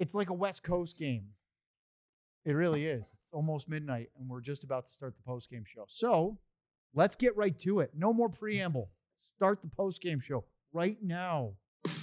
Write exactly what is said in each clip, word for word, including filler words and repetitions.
It's like a West Coast game. It really is. It's almost midnight, and we're just about to start the post-game show. So let's get right to it. No more preamble. Start the post-game show right now.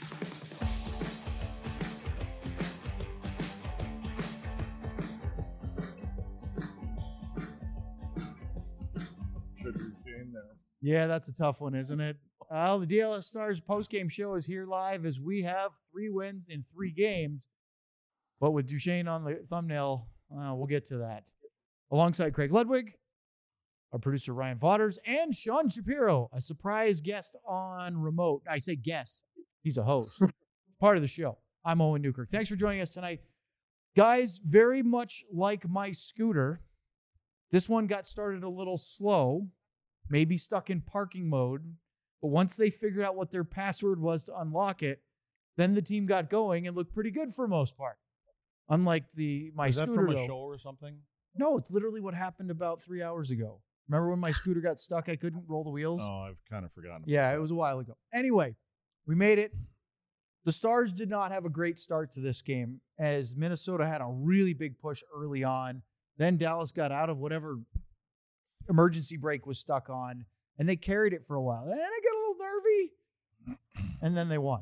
Should be staying there. Yeah, that's a tough one, isn't it? Well, the D L S Stars post-game show is here live as we have three wins in three games. But with Duchesne on the thumbnail, uh, we'll get to that. Alongside Craig Ludwig, our producer Ryan Vaughters, and Sean Shapiro, a surprise guest on remote. I say guest. He's a host. Part of the show. I'm Owen Newkirk. Thanks for joining us tonight. Guys, very much like my scooter, this one got started a little slow, maybe stuck in parking mode. But once they figured out what their password was to unlock it, then the team got going and looked pretty good for the most part. Unlike the my Is that scooter, from a though. show or something? No, it's literally what happened about three hours ago. Remember when my scooter got stuck? I couldn't roll the wheels. Oh, I've kind of forgotten. About Yeah, that. it was a while ago. Anyway, we made it. The Stars did not have a great start to this game as Minnesota had a really big push early on. Then Dallas got out of whatever emergency brake was stuck on, and they carried it for a while. Then it got a little nervy, and then they won.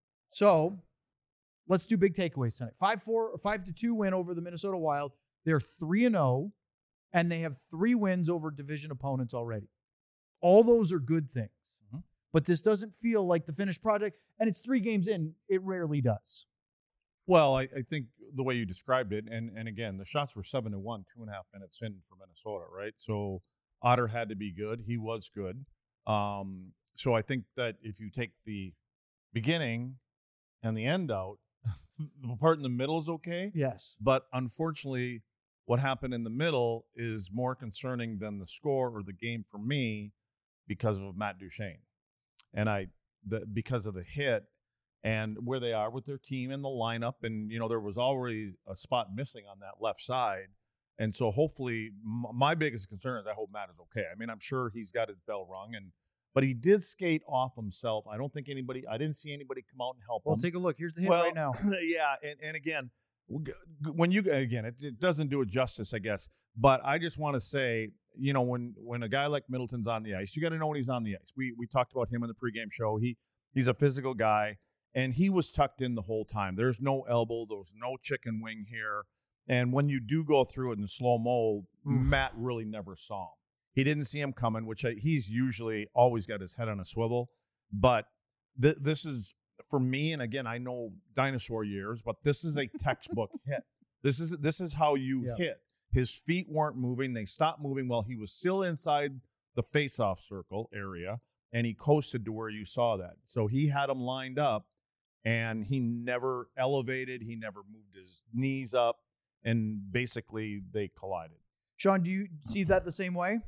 So let's do big takeaways tonight. five four or five to two win over the Minnesota Wild. They're three and oh, and they have three wins over division opponents already. All those are good things. Mm-hmm. But this doesn't feel like the finished project, and it's three games in. It rarely does. Well, I, I think the way you described it, and, and again, the shots were seven to one, two and a half minutes in for Minnesota, right? So Otter had to be good. He was good. Um, so I think that if you take the beginning and the end out, the part in the middle is okay. Yes. But unfortunately, what happened in the middle is more concerning than the score or the game for me because of Matt Duchesne. And I, the, because of the hit and where they are with their team and the lineup. And, you know, there was already a spot missing on that left side. And so hopefully m- my biggest concern is I hope Matt is okay. I mean, I'm sure he's got his bell rung, and but he did skate off himself. I don't think anybody, I didn't see anybody come out and help Well, him. take a look. Here's the hit Well, right now. Yeah, and, and again, when you again, it, it doesn't do it justice, I guess. But I just want to say, you know, when when a guy like Middleton's on the ice, you got to know when he's on the ice. We we talked about him in the pregame show. He he's a physical guy, and he was tucked in the whole time. There's no elbow. There's no chicken wing here. And when you do go through it in slow mo, Matt really never saw him. He didn't see him coming, which I, he's usually always got his head on a swivel. But th- this is, for me, and again, I know dinosaur years, but this is a textbook hit. This is this is how you Yeah. hit. His feet weren't moving. They stopped moving while he was still inside the face-off circle area, and he coasted to where you saw that. So he had him lined up, and he never elevated. He never moved his knees up, and basically they collided. Sean, do you see that the same way?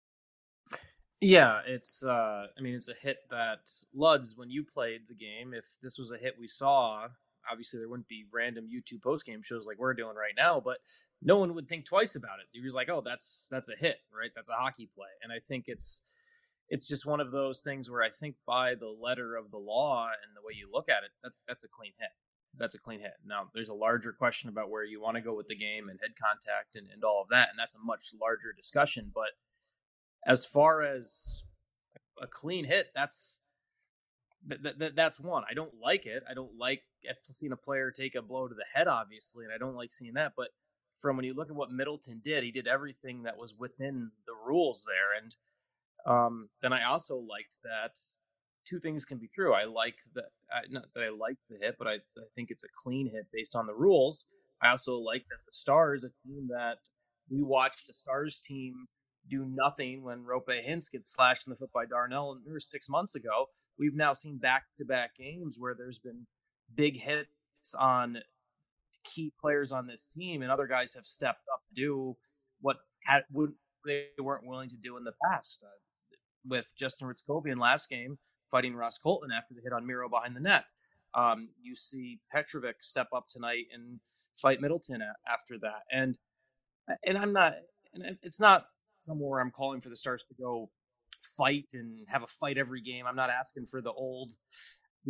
Yeah, it's, uh, I mean, it's a hit that Luds, when you played the game, if this was a hit we saw, obviously there wouldn't be random YouTube post-game shows like we're doing right now, but no one would think twice about it. He was like, oh, that's that's a hit, right? That's a hockey play. And I think it's it's just one of those things where I think by the letter of the law and the way you look at it, that's that's a clean hit. That's a clean hit. Now, there's a larger question about where you want to go with the game and head contact and, and all of that, and that's a much larger discussion, but as far as a clean hit, that's that, that, that's one. I don't like it. I don't like seeing a player take a blow to the head, obviously, and I don't like seeing that. But from when you look at what Middleton did, he did everything that was within the rules there. And um, then I also liked that two things can be true. I like that, uh, not that I like the hit, but I, I think it's a clean hit based on the rules. I also like that the Stars, a team that we watched a Stars team do nothing when Rope Hintz gets slashed in the foot by Darnell and six months ago. We've now seen back-to-back games where there's been big hits on key players on this team, and other guys have stepped up to do what had, would, they weren't willing to do in the past. Uh, with Justin Ritzkovian last game fighting Ross Colton after the hit on Miro behind the net. Um, you see Petrovic step up tonight and fight Middleton a- after that. And and I'm not, and it's not somewhere I'm calling for the Stars to go fight and have a fight every game. I'm not asking for the old, the old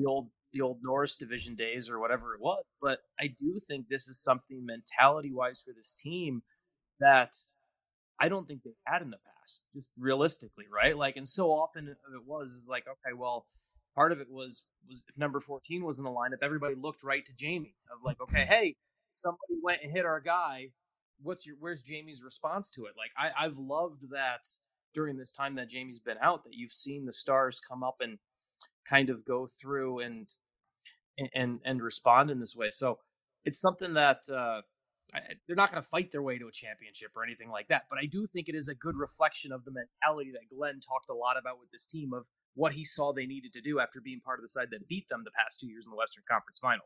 the old Norris division days or whatever it was. But I do think this is something mentality wise for this team that I don't think they've had in the past, just realistically, right? Like, and so often it was is like, okay, well, part of it was was if number fourteen was in the lineup, everybody looked right to Jamie of like, okay, hey, somebody went and hit our guy. What's your where's Jamie's response to it? Like, I, I've loved that during this time that Jamie's been out, that you've seen the stars come up and kind of go through and and and respond in this way. So it's something that uh, I, they're not going to fight their way to a championship or anything like that. But I do think it is a good reflection of the mentality that Glenn talked a lot about with this team of what he saw they needed to do after being part of the side that beat them the past two years in the Western Conference Finals.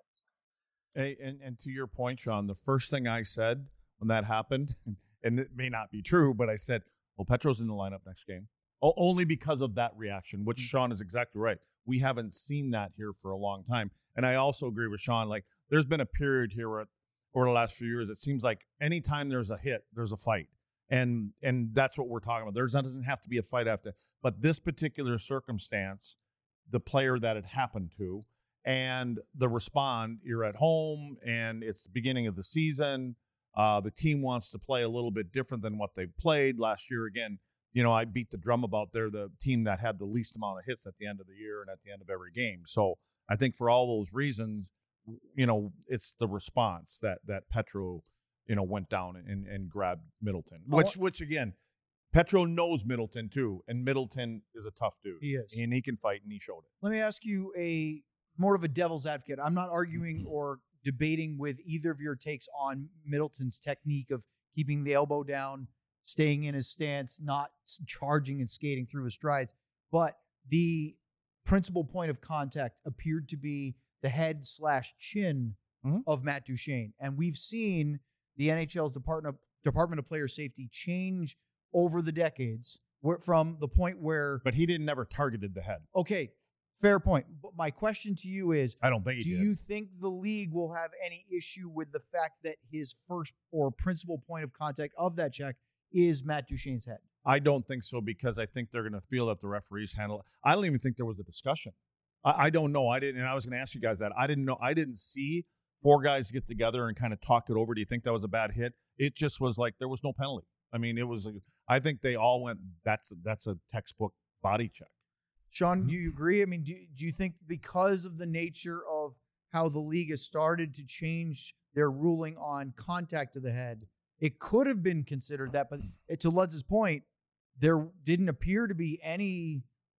Hey, and, and to your point, Sean, the first thing I said when that happened, and it may not be true, but I said, well, Petro's in the lineup next game. O- only because of that reaction, which Sean is exactly right. We haven't seen that here for a long time. And I also agree with Sean. Like, there's been a period here where, over the last few years, it seems like anytime there's a hit, there's a fight. And and that's what we're talking about. There doesn't have to be a fight after. But this particular circumstance, the player that it happened to, and the respond, you're at home, and it's the beginning of the season. Uh, the team wants to play a little bit different than what they played last year. Again, you know, I beat the drum about they're the team that had the least amount of hits at the end of the year and at the end of every game. So I think for all those reasons, you know, it's the response that that Petro, you know, went down and, and grabbed Middleton, which, which again, Petro knows Middleton too, and Middleton is a tough dude. He is. And he can fight, and he showed it. Let me ask you a more of a devil's advocate. I'm not arguing or debating with either of your takes on Middleton's technique of keeping the elbow down, staying in his stance, not charging and skating through his strides. But the principal point of contact appeared to be the head slash chin mm-hmm. of Matt Duchene. And we've seen the N H L's Department of, Department of Player Safety change over the decades where, from the point where... But he didn't never targeted the head. Okay, fair point. But my question to you is, I don't think he do did. you think the league will have any issue with the fact that his first or principal point of contact of that check is Matt Duchene's head? I don't think so, because I think they're going to feel that the referees handle it. I don't even think there was a discussion. I, I don't know. I didn't, and I was going to ask you guys that. I didn't know. I didn't see four guys get together and kind of talk it over. Do you think that was a bad hit? It just was like there was no penalty. I mean, it was. I think they all went. That's that's a textbook body check. Sean, do you agree? I mean, do do you think because of the nature of how the league has started to change their ruling on contact to the head, it could have been considered that? But to Ludz's point, there didn't appear to be any,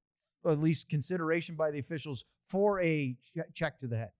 at least consideration by the officials for a check to the head.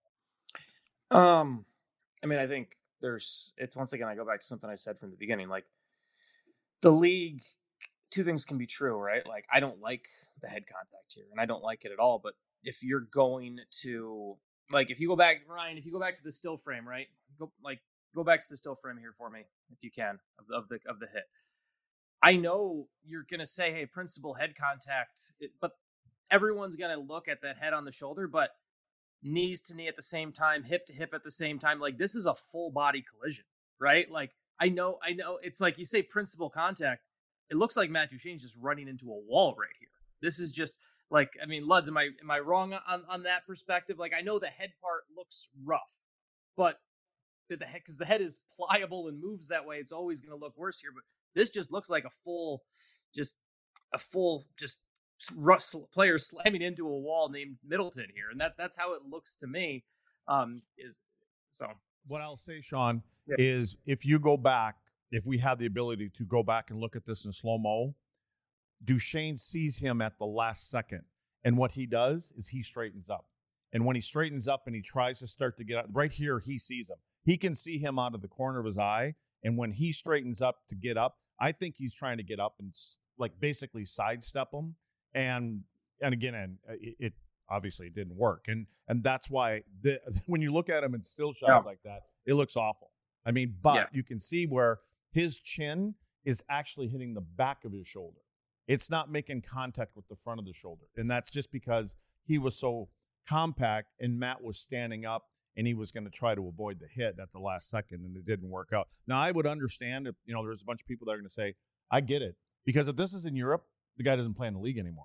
Um, I mean, I think there's, it's once again, I go back to something I said from the beginning, like the league, two things can be true, right? Like, I don't like the head contact here, and I don't like it at all. But if you're going to, like, if you go back, Ryan, if you go back to the still frame, right? Go like, go back to the still frame here for me, if you can, of, of the of the hit. I know you're gonna say, hey, principal head contact, but everyone's gonna look at that head on the shoulder, but knees to knee at the same time, hip to hip at the same time. Like, this is a full body collision, right? Like, I know, I know it's like you say principal contact. It looks like Matt Duchene's just running into a wall right here. This is just like, I mean, Luds, am I, am I wrong on, on that perspective? Like, I know the head part looks rough, but the head, because the head is pliable and moves that way, it's always going to look worse here. But this just looks like a full, just a full, just player slamming into a wall named Middleton here, and that that's how it looks to me. Um, is so. What I'll say, Sean, yeah. is if you go back, if we have the ability to go back and look at this in slow mo, Duchene sees him at the last second, and what he does is he straightens up. And when he straightens up and he tries to start to get out, right here, he sees him. He can see him out of the corner of his eye, and when he straightens up to get up, I think he's trying to get up and like basically sidestep him. And and again, and it, it obviously it didn't work, and and that's why the, when you look at him in still shots yeah. like that, it looks awful. I mean, but yeah. you can see where his chin is actually hitting the back of his shoulder. It's not making contact with the front of the shoulder, and that's just because he was so compact, and Matt was standing up, and he was going to try to avoid the hit at the last second, and it didn't work out. Now, I would understand if you know there's a bunch of people that are going to say, "I get it," because if this is in Europe, the guy doesn't play in the league anymore.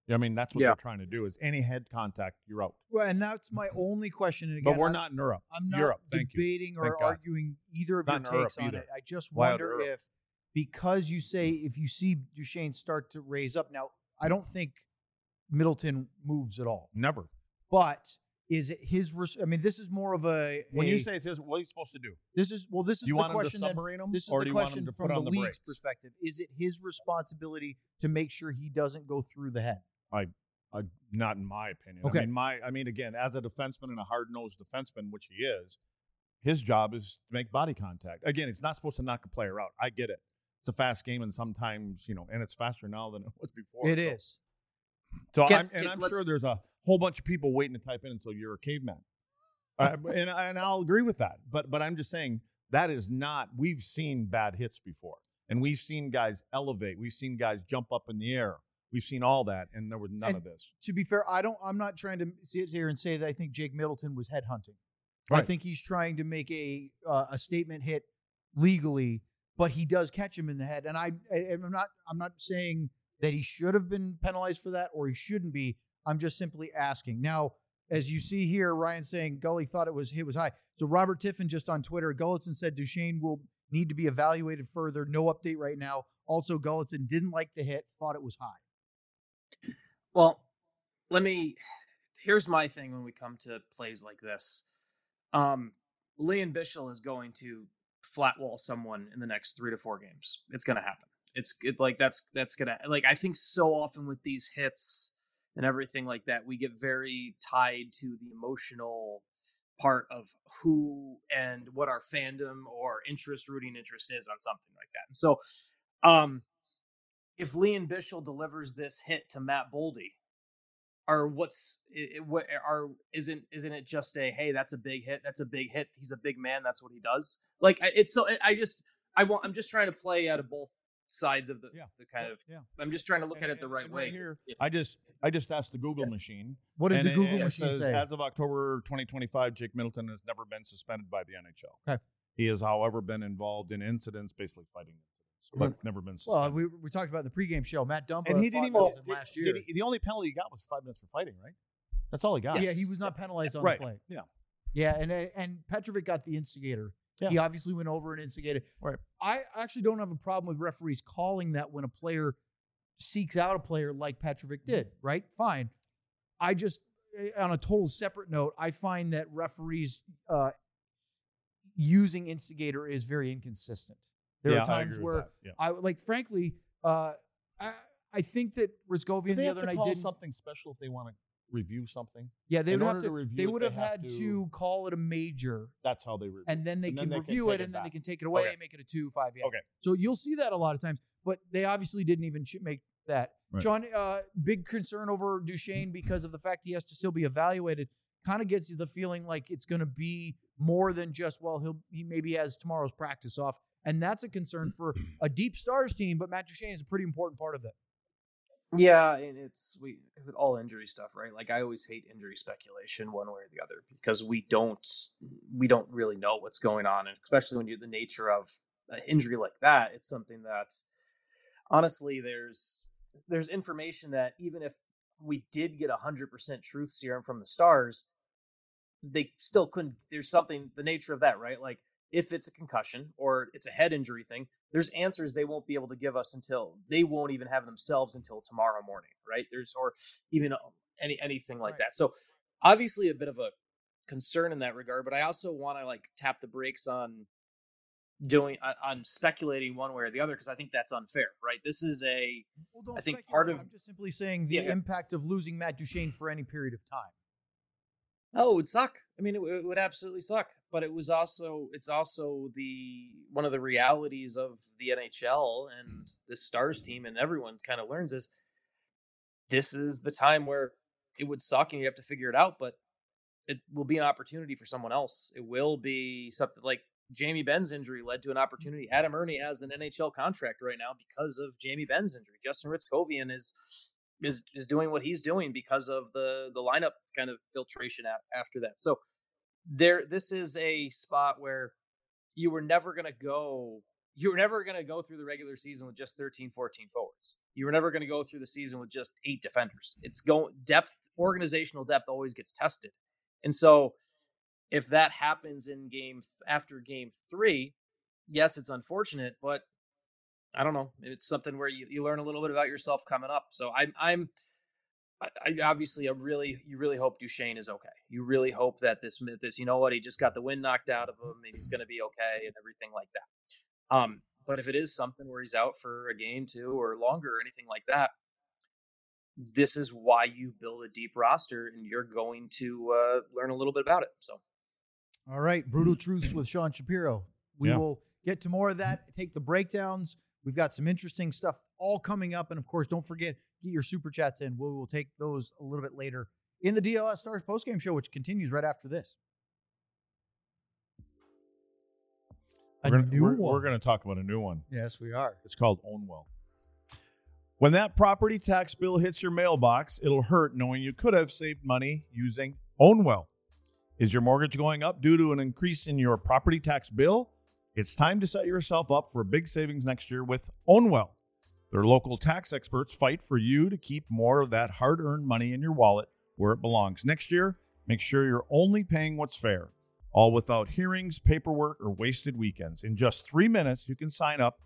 I mean, that's what Yeah. they're trying to do is any head contact, you're out. Well, and that's my only question. And again, But we're I'm, not in Europe. I'm not Europe, thank you. debating or Thank God. arguing either of Not your in Europe takes on either. it. I just Wild wonder Europe. if, because you say if you see Duchesne start to raise up. Now, I don't think Middleton moves at all. Never. But is it his? Res- I mean, this is more of a. When a- you say it's his, what are you supposed to do? this is well, this is You the want him to question. Then, submarine him, this is or the do you want question him to from put the on the league's brakes? perspective. Is it his responsibility to make sure he doesn't go through the head? I, I, not in my opinion. Okay. I mean, my, I mean, again, as a defenseman and a hard-nosed defenseman, which he is, his job is to make body contact. Again, he's not supposed to knock a player out. I get it. It's a fast game, and sometimes, you know, and it's faster now than it was before. It so. is. So, Can- I'm, and can- I'm let's- sure there's a whole bunch of people waiting to type in until you're a caveman. uh, and, and I'll agree with that. But, but I'm just saying that is not. We've seen bad hits before, and we've seen guys elevate. We've seen guys jump up in the air. We've seen all that, and there was none And of this. To be fair, I don't. I'm not trying to sit here and say that I think Jake Middleton was headhunting. I Right. think he's trying to make a uh, a statement hit legally, but he does catch him in the head. And I, I I'm not. I'm not saying that he should have been penalized for that or he shouldn't be. I'm just simply asking. Now, as you see here, Ryan saying Gully thought it was hit was high. So Robert Tiffin just on Twitter, Gulletson said Duchesne will need to be evaluated further. No update right now. Also, Gulletson didn't like the hit, thought it was high. Well, let me. Here's my thing when we come to plays like this. Um, Leon Bichel is going to flat wall someone in the next three to four games. It's going to happen. It's it, like that's that's gonna like I think so often with these hits and everything like that, we get very tied to the emotional part of who and what our fandom or interest, rooting interest is on something like that. And so, um, if Leon Bichel delivers this hit to Matt Boldy, or what's it, what are isn't isn't it just a hey, that's a big hit, that's a big hit, he's a big man, that's what he does. Like I- it's so I just I want I'm just trying to play out of both sides of the, Yeah. the kind Yeah, of yeah. I'm just trying to look And- at it the and- right and way. Right here, Yeah. I just I just asked the Google machine. What did and the it- Google it machine says, say? As of October twenty twenty-five, Jake Middleton has never been suspended by the N H L. Okay. He has, however, been involved in incidents, basically fighting incidents, but never been Well, suspended. we, we talked about in the pregame show. Matt Dumba and he fought didn't even Middleton did- last did year. he- the only penalty he got was five minutes for fighting, right? That's all he got. Yeah, he was not penalized on Right. the play. Yeah. Yeah, and and Petrovic got the instigator. Yeah. He obviously went over and instigated. Right. I actually don't have a problem with referees calling that when a player seeks out a player like Petrovic did, right? Fine. I just, eh, on a total separate note, I find that referees uh, using instigator is very inconsistent. There Yeah, are I times agree with where that. Yeah. I like, frankly, uh, I, I think that Do Rizkovian they the have other to night call didn't. something special if they want to review something? Yeah, they in would have order to. to review they it, would they have have had to- to call it a major, That's how they review. and then they And can then they can review take it, it and then they back. can take it away Okay. and make it a two five. Yeah. Okay. So you'll see that a lot of times, but they obviously didn't even ch- make that. Right. John, uh, big concern over Duchesne because of the fact he has to still be evaluated. Kind of gets you the feeling like it's going to be more than just well, he'll he maybe has tomorrow's practice off, and that's a concern for a deep stars team. But Matt Duchesne is a pretty important part of it. Yeah, and it's we with all injury stuff, right? Like I always hate injury speculation one way or the other because we don't we don't really know what's going on, and especially when you're the nature of an injury like that, it's something that honestly there's there's information that even if we did get a hundred percent truth serum from the Stars, they still couldn't. There's something the nature of that, right? Like if it's a concussion or it's a head injury thing, there's answers they won't be able to give us until they won't even have themselves until tomorrow morning, right? There's or even any anything like Right. that. So obviously a bit of a concern in that regard, but I also want to like tap the brakes on doing on, on speculating one way or the other because I think that's unfair, right? This is a Well, don't I think speculate. part of- I'm just simply saying the Yeah, yeah. impact of losing Matt Duchesne for any period of time. Oh, it would suck. I mean, it, w- it would absolutely suck. But it was also, it's also the one of the realities of the N H L and the Stars team, and everyone kind of learns is this is the time where it would suck and you have to figure it out. But it will be an opportunity for someone else. It will be something like Jamie Benn's injury led to an opportunity. Adam Ernie has an N H L contract right now because of Jamie Benn's injury. Justin Ritskovian is is is doing what he's doing because of the the lineup kind of filtration a- after that. So there, this is a spot where you were never going to go you were never going to go through the regular season with just thirteen, fourteen forwards. You were never going to go through the season with just eight defenders. It's going depth, organizational depth always gets tested. And so if that happens in game after game three, yes, it's unfortunate, but I don't know. It's something where you, you learn a little bit about yourself coming up. So I'm, I'm, I, I obviously, I really, you really hope Duchene is okay. You really hope that this, this, you know what, he just got the wind knocked out of him and he's going to be okay and everything like that. Um, but if it is something where he's out for a game, two, or longer, or anything like that, this is why you build a deep roster, and you're going to uh, learn a little bit about it. So, all right, Brutal Truths with Sean Shapiro. We Yeah. will get to more of that. Take the breakdowns. We've got some interesting stuff all coming up, and of course, don't forget get your super chats in. We will take those a little bit later in the D L S Stars postgame show, which continues right after this. A We're gonna, new we're, one. we're going to talk about a new one. Yes, we are. It's called Ownwell. When that property tax bill hits your mailbox, it'll hurt knowing you could have saved money using Ownwell. Is your mortgage going up due to an increase in your property tax bill? It's time to set yourself up for big savings next year with Ownwell. Their local tax experts fight for you to keep more of that hard-earned money in your wallet where it belongs. Next year, make sure you're only paying what's fair, all without hearings, paperwork, or wasted weekends. In just three minutes, you can sign up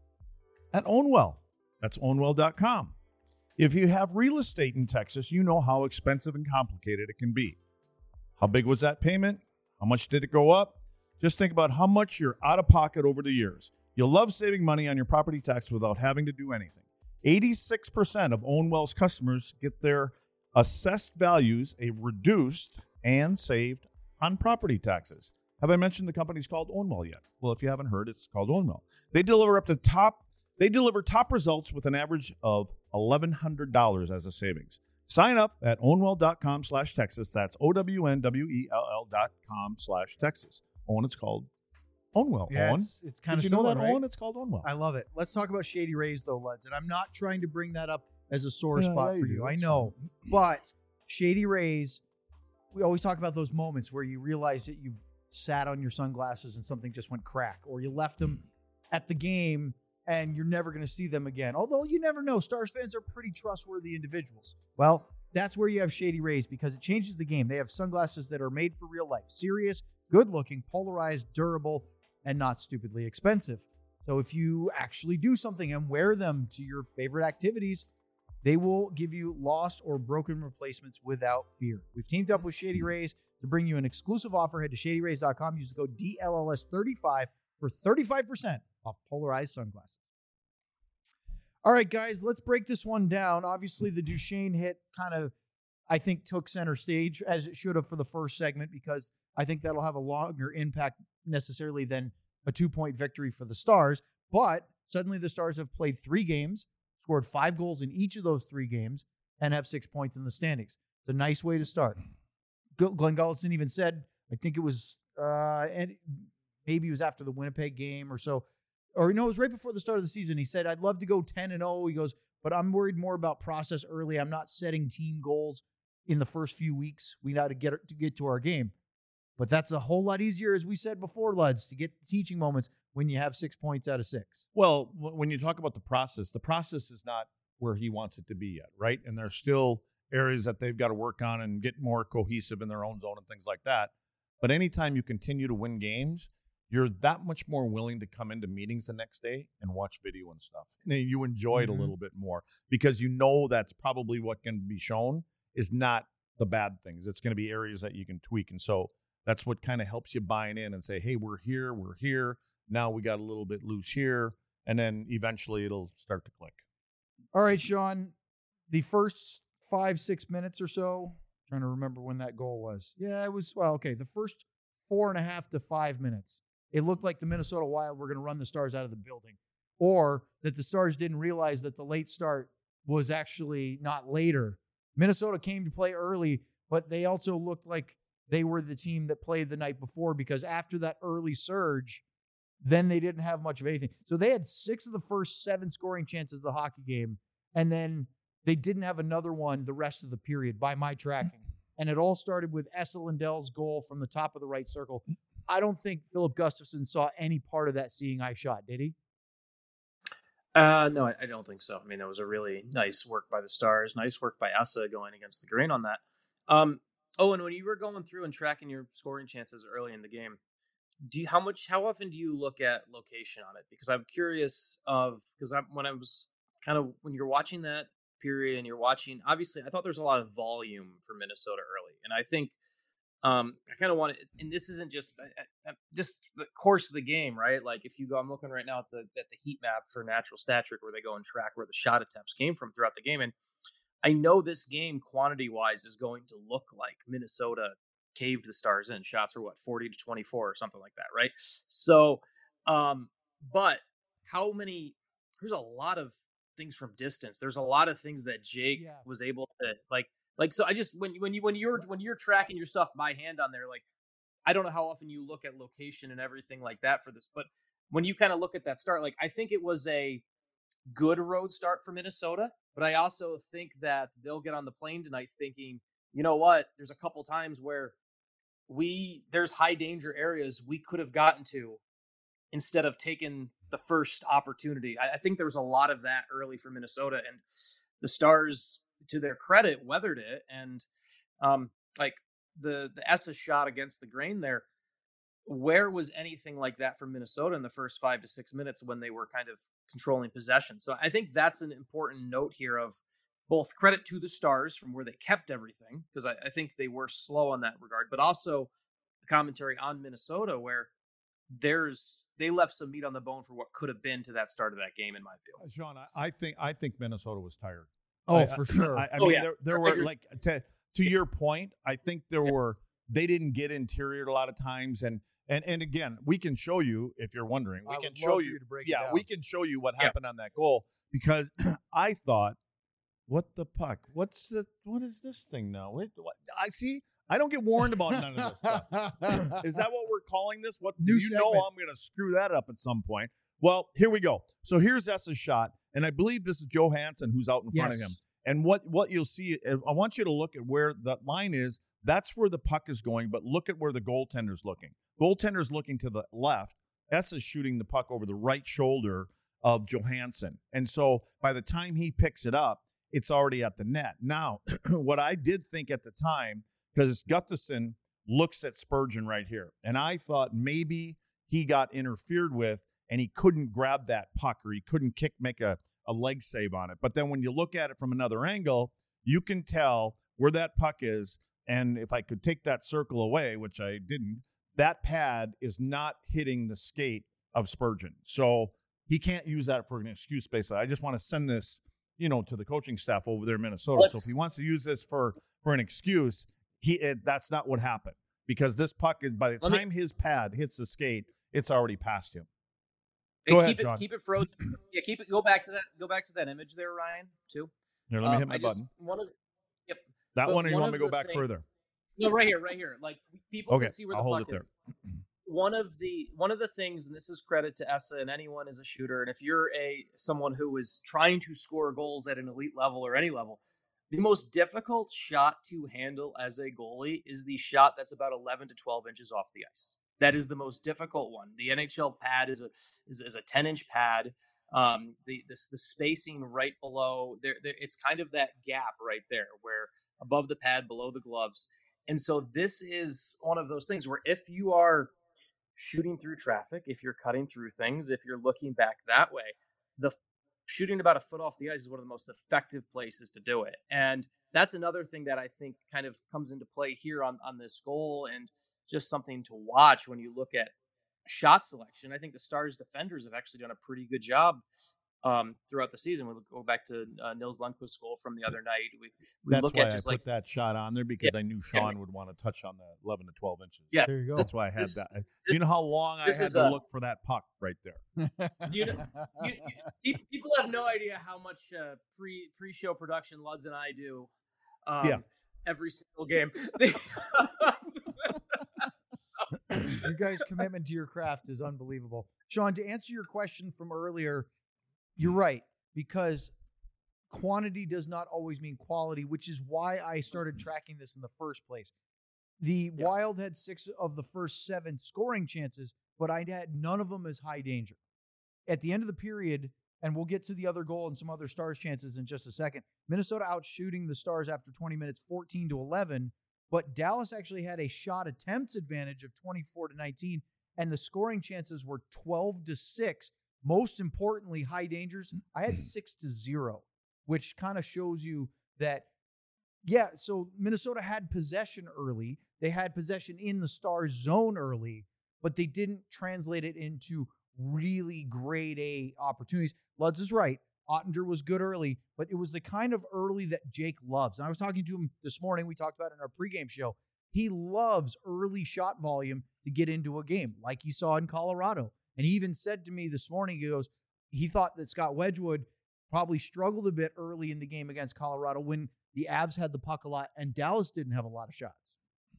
at Ownwell. That's ownwell dot com. If you have real estate in Texas, you know how expensive and complicated it can be. How big was that payment? How much did it go up? Just think about how much you're out of pocket over the years. You'll love saving money on your property tax without having to do anything. eighty-six percent of Ownwell's customers get their assessed values a reduced and saved on property taxes. Have I mentioned the company's called Ownwell yet? Well, if you haven't heard, it's called Ownwell. They deliver up to top They deliver top results with an average of eleven hundred dollars as a savings. Sign up at ownwell.com slash Texas. That's O-W-N-W-E-L-L dot com slash Texas. Owen, it's called Ownwell. Yeah, Owen, it's, it's kind did of you know similar, that, right? Owen? It's called Ownwell. I love it. Let's talk about Shady Rays, though, Luds. And I'm not trying to bring that up as a sore Yeah, spot yeah, for you you. do. I It's know. But Shady Rays, we always talk about those moments where you realize that you've sat on your sunglasses and something just went crack, or you left them at the game and you're never going to see them again. Although you never know. Stars fans are pretty trustworthy individuals. Well, that's where you have Shady Rays, because it changes the game. They have sunglasses that are made for real life. Serious, good-looking, polarized, durable, and not stupidly expensive. So if you actually do something and wear them to your favorite activities, they will give you lost or broken replacements without fear. We've teamed up with Shady Rays to bring you an exclusive offer. Head to shady rays dot com. Use the code D L L S thirty-five for thirty-five percent off polarized sunglasses. All right, guys, let's break this one down. Obviously, the Duchene hit kind of, I think, took center stage, as it should have for the first segment, because I think that'll have a longer impact necessarily than a two-point victory for the Stars. But suddenly the Stars have played three games, scored five goals in each of those three games, and have six points in the standings. It's a nice way to start. Glenn Gulletson even said, I think it was, uh, and maybe it was after the Winnipeg game or so, or no, it was right before the start of the season. He said, I'd love to go ten and oh. He goes, but I'm worried more about process early. I'm not setting team goals in the first few weeks. We got to get to get to our game. But that's a whole lot easier, as we said before, Luds, to get teaching moments when you have six points out of six. Well, w- when you talk about the process, the process is not where he wants it to be yet, right? And there's still areas that they've got to work on and get more cohesive in their own zone and things like that. But anytime you continue to win games, you're that much more willing to come into meetings the next day and watch video and stuff. And you enjoy it Mhm. a little bit more because you know that's probably what can be shown is not the bad things. It's going to be areas that you can tweak. And so that's what kind of helps you buy in and say, hey, we're here, we're here. Now we got a little bit loose here. And then eventually it'll start to click. All right, Sean, the first five, six minutes or so, trying to remember when that goal was. Yeah, it was, well, okay, the first four and a half to five minutes, it looked like the Minnesota Wild were going to run the Stars out of the building, or that the Stars didn't realize that the late start was actually not later. Minnesota came to play early, but they also looked like they were the team that played the night before, because after that early surge, then they didn't have much of anything. So they had six of the first seven scoring chances of the hockey game, and then they didn't have another one the rest of the period by my tracking. And it all started with Esa Lindell's goal from the top of the right circle. I don't think Philip Gustafson saw any part of that seeing eye shot, did he? Uh, no, I, I don't think so. I mean, that was a really nice work by the Stars. Nice work by Essa going against the grain on that. Um, oh, and when you were going through and tracking your scoring chances early in the game, do you, how much, how often do you look at location on it? Because I'm curious of, because I when I was kind of, when you're watching that period and you're watching, obviously, I thought there's a lot of volume for Minnesota early. And I think, um, I kind of want to, and this isn't just I, I, just the course of the game, right? Like if you go, I'm looking right now at the at the heat map for Natural Stat Trick, where they go and track where the shot attempts came from throughout the game, and I know this game quantity wise is going to look like Minnesota caved the Stars in. Shots were what, forty to twenty-four or something like that, right? So, um, but how many? There's a lot of things from distance. There's a lot of things that Jake Yeah. was able to like. Like, so I just, when, when you, when you're, when you're tracking your stuff by hand on there, like, I don't know how often you look at location and everything like that for this, but when you kind of look at that start, like, I think it was a good road start for Minnesota, but I also think that they'll get on the plane tonight thinking, you know what, there's a couple times where we, there's high danger areas we could have gotten to instead of taking the first opportunity. I, I think there was a lot of that early for Minnesota, and the Stars, to their credit, weathered it. And um, like the the Essa shot against the grain there, where was anything like that from Minnesota in the first five to six minutes when they were kind of controlling possession? So I think that's an important note here of both credit to the Stars from where they kept everything, because I, I think they were slow on that regard, but also the commentary on Minnesota where there's they left some meat on the bone for what could have been to that start of that game, in my view. Sean, I, I think I think Minnesota was tired. Oh, I, for sure. I, I Oh, mean, yeah. there, there were like to to your point. I think there Yeah. were they didn't get interior a lot of times, and and and again, we can show you if you're wondering. We I can would show love for you. you to break it yeah, down. we can show you what Yeah. happened on that goal because I thought, what the puck? What's the what is this thing now? What, what, I see. I don't get warned about none of this stuff. Is that what we're calling this? What New you know? segment. I'm going to screw that up at some point. Well, here we go. So here's Essa's shot, and I believe this is Johansson who's out in front of him. Yes. And what what you'll see, I want you to look at where that line is. That's where the puck is going, but look at where the goaltender's looking. Goaltender's looking to the left. Essa's shooting the puck over the right shoulder of Johansson. And so by the time he picks it up, it's already at the net. Now, what I did think at the time, because Gustafson looks at Spurgeon right here, and I thought maybe he got interfered with and he couldn't grab that puck or he couldn't kick, make a, a leg save on it. But then when you look at it from another angle, you can tell where that puck is. And if I could take that circle away, which I didn't, that pad is not hitting the skate of Spurgeon. So he can't use that for an excuse, basically. I just want to send this, you know, to the coaching staff over there in Minnesota. Let's- so if he wants to use this for, for an excuse, he it, that's not what happened. Because this puck is, by the Let me- time his pad hits the skate, it's already past him. Hey, Go keep ahead, Sean. it keep it frozen. Yeah, keep it. Go back to that. Go back to that image there, Ryan. Too. Here, let me Um, hit my I just, button. One of yep. That but one, or you one want me of to go the back thing- further? No, right here, right here. Like people Okay, can see where I'll the hold puck it is. One of the one of the things, and this is credit to Essa and anyone as a shooter, and if you're a someone who is trying to score goals at an elite level or any level, the most difficult shot to handle as a goalie is the shot that's about eleven to twelve inches off the ice. That is the most difficult one. The N H L pad is a is, is a ten inch pad. Um, the this the spacing right below there, there, it's kind of that gap right there, where above the pad, below the gloves. And so this is one of those things where if you are shooting through traffic, if you're cutting through things, if you're looking back that way, the shooting about a foot off the ice is one of the most effective places to do it. And that's another thing that I think kind of comes into play here on, on this goal, and just something to watch when you look at shot selection. I think the Stars defenders have actually done a pretty good job um, throughout the season. We'll go back to uh, Nils Lundqvist's goal from the other night. We, we That's look why at just I like put that shot on there, because I knew Sean would want to touch on the eleven to twelve inches. Yeah. There you go. That's why I had This- that. Do you know how long I this had is to a- look for that puck right there? Do you know- you, you, people have no idea how much uh, pre pre show production Luz and I do. Um, Yeah. Every single game. You guys' commitment to your craft is unbelievable. Sean, to answer your question from earlier, you're right, because quantity does not always mean quality, which is why I started tracking this in the first place. The Yeah. Wild had six of the first seven scoring chances, but I had none of them as high danger. At the end of the period, and we'll get to the other goal and some other Stars chances in just a second, Minnesota outshooting the Stars after twenty minutes, fourteen to eleven, but Dallas actually had a shot attempts advantage of twenty-four to nineteen, and the scoring chances were twelve to six. Most importantly, high dangers, I had six to zero, which kind of shows you that, yeah, so Minnesota had possession early. They had possession in the Stars zone early, but they didn't translate it into really grade A opportunities. Lutz is right. Ottinger was good early, but it was the kind of early that Jake loves. And I was talking to him this morning. We talked about it in our pregame show. He loves early shot volume to get into a game, like he saw in Colorado. And he even said to me this morning, he goes, he thought that Scott Wedgwood probably struggled a bit early in the game against Colorado when the Avs had the puck a lot and Dallas didn't have a lot of shots.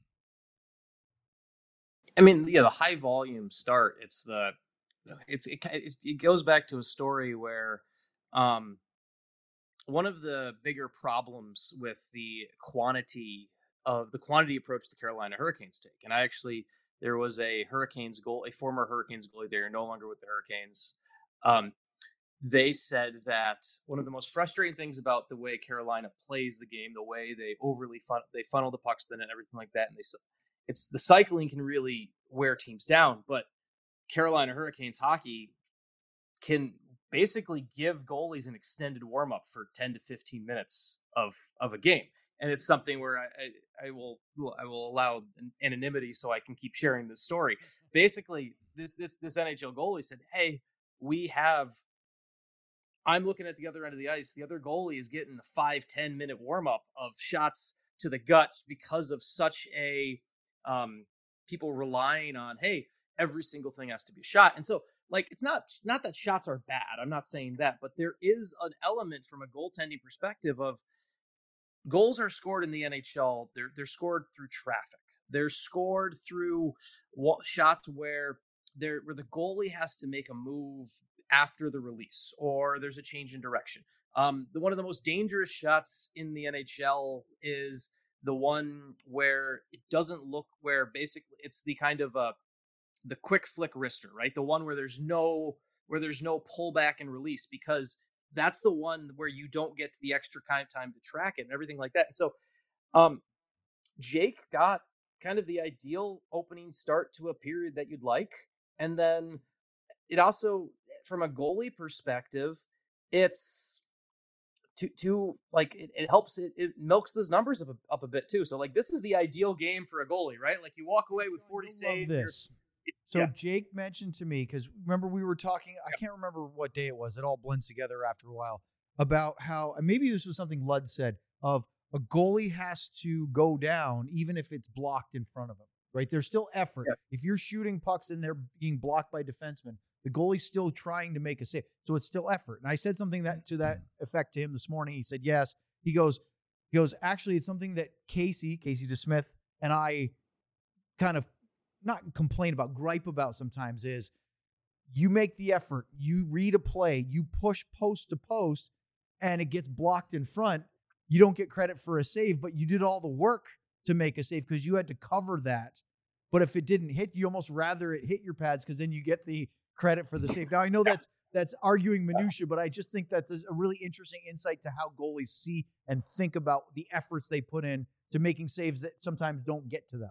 I mean, yeah, the high volume start. It's the, it's it, it goes back to a story where, um, one of the bigger problems with the quantity of the quantity approach the Carolina Hurricanes take, and I actually there was a Hurricanes goal, a former Hurricanes goalie. They're no longer with the Hurricanes. Um, they said that one of the most frustrating things about the way Carolina plays the game, the way they overly fun, they funnel the pucks in and everything like that, and they it's the cycling can really wear teams down. But Carolina Hurricanes hockey can basically give goalies an extended warm up for ten to fifteen minutes of of a game, and it's something where I, I, I will I will allow anonymity so I can keep sharing this story. Basically, this this this N H L goalie said, "Hey, we have." I'm looking at the other end of the ice. The other goalie is getting a five, ten minute warm up of shots to the gut because of such a um, people relying on, hey, every single thing has to be a shot. And so, like, it's not not that shots are bad. I'm not saying that, but there is an element from a goaltending perspective of goals are scored in the N H L. They're they're scored through traffic. They're scored through shots where there where the goalie has to make a move after the release, or there's a change in direction. Um, the one of the most dangerous shots in the N H L is the one where it doesn't look where basically it's the kind of uh the quick flick wrister, right? The one where there's no where there's no pullback and release, because that's the one where you don't get to the extra kind of time to track it and everything like that. And so um, Jake got kind of the ideal opening start to a period that you'd like. And then it also, from a goalie perspective, it's to to like it, it helps it, it milks those numbers up a, up a bit too. So like this is the ideal game for a goalie, right? Like you walk away with forty saves. This. So yeah. Jake mentioned to me, because remember we were talking, I can't remember what day it was. It all blends together after a while, about how, and maybe this was something Lud said, of a goalie has to go down even if it's blocked in front of him, right? There's still effort. Yeah. If you're shooting pucks and they're being blocked by defensemen, the goalie's still trying to make a save. So it's still effort. And I said something that to that effect to him this morning. He said, yes. He goes, he goes, actually, it's something that Casey, Casey DeSmith, and I kind of not complain about, gripe about sometimes, is you make the effort, you read a play, you push post to post, and it gets blocked in front. You don't get credit for a save, but you did all the work to make a save because you had to cover that. But if it didn't hit, you almost rather it hit your pads because then you get the credit for the save. Now, I know that's that's arguing minutia, but I just think that's a really interesting insight to how goalies see and think about the efforts they put in to making saves that sometimes don't get to them.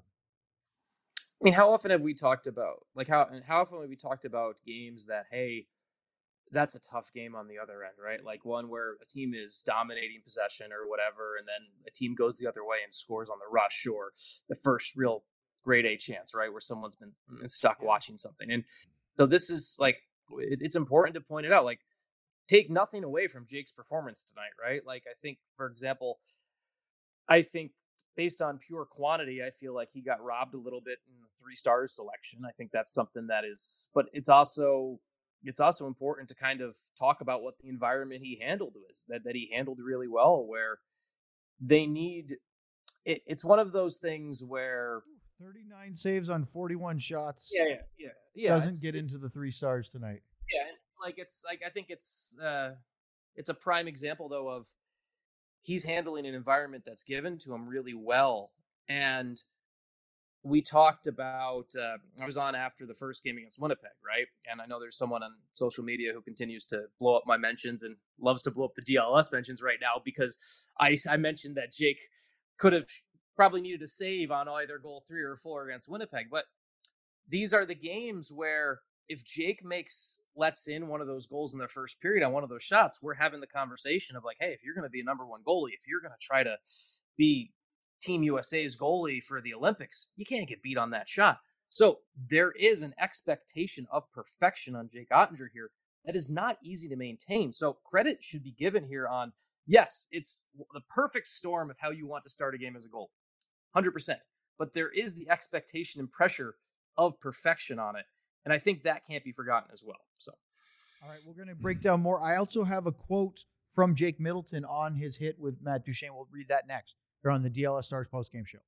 I mean, how often have we talked about, like, how how often have we talked about games that, hey, that's a tough game on the other end, right? Like one where a team is dominating possession or whatever, and then a team goes the other way and scores on the rush, or the first real grade A chance, right, where someone's been stuck watching something. And so this is like, it, it's important to point it out. Like, take nothing away from Jake's performance tonight, right? Like, I think, for example, I think based on pure quantity, I feel like he got robbed a little bit in the three stars selection. I think that's something that is, but it's also, it's also important to kind of talk about what the environment he handled was, that, that he handled really well, where they need, it, it's one of those things where thirty-nine saves on forty-one shots. Yeah, yeah, yeah. yeah doesn't get into the three stars tonight. Yeah. Like it's like, I think it's, uh, it's a prime example though of, he's handling an environment that's given to him really well. And we talked about, uh, I was on after the first game against Winnipeg, right? And I know there's someone on social media who continues to blow up my mentions and loves to blow up the D L S mentions right now because I, I mentioned that Jake could have probably needed a save on either goal three or four against Winnipeg. But these are the games where if Jake makes, lets in one of those goals in the first period on one of those shots, we're having the conversation of like, hey, if you're going to be a number one goalie, if you're going to try to be Team U S A's goalie for the Olympics, you can't get beat on that shot. So there is an expectation of perfection on Jake Oettinger here that is not easy to maintain. So credit should be given here on, yes, it's the perfect storm of how you want to start a game as a goal, one hundred percent. But there is the expectation and pressure of perfection on it. And I think that can't be forgotten as well. So, all right, we're going to break down more. I also have a quote from Jake Middleton on his hit with Matt Duchene. We'll read that next. They're on the D L S Stars postgame show.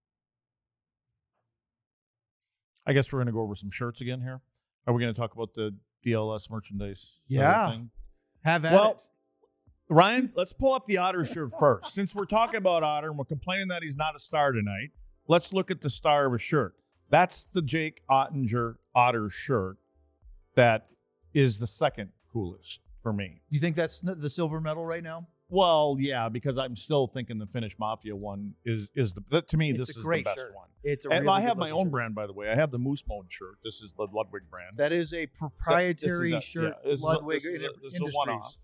I guess we're going to go over some shirts again here. Are we going to talk about the D L S merchandise? Yeah. Thing? Have at well, it. Ryan, let's pull up the Otter shirt first. Since we're talking about Otter and we're complaining that he's not a star tonight, let's look at the star of a shirt. That's the Jake Oettinger Otter shirt that is the second coolest for me. You think that's the silver medal right now? Well, yeah, because I'm still thinking the Finnish Mafia one is is the that, to me it's this a is great the best shirt. one. It's a and really I have my own shirt. brand, by the way. I have the Moose Mode shirt. This is the Ludwig brand. That is a proprietary that, this is a, shirt. Yeah, this Ludwig is a, this is a, this Industries. is a one-off.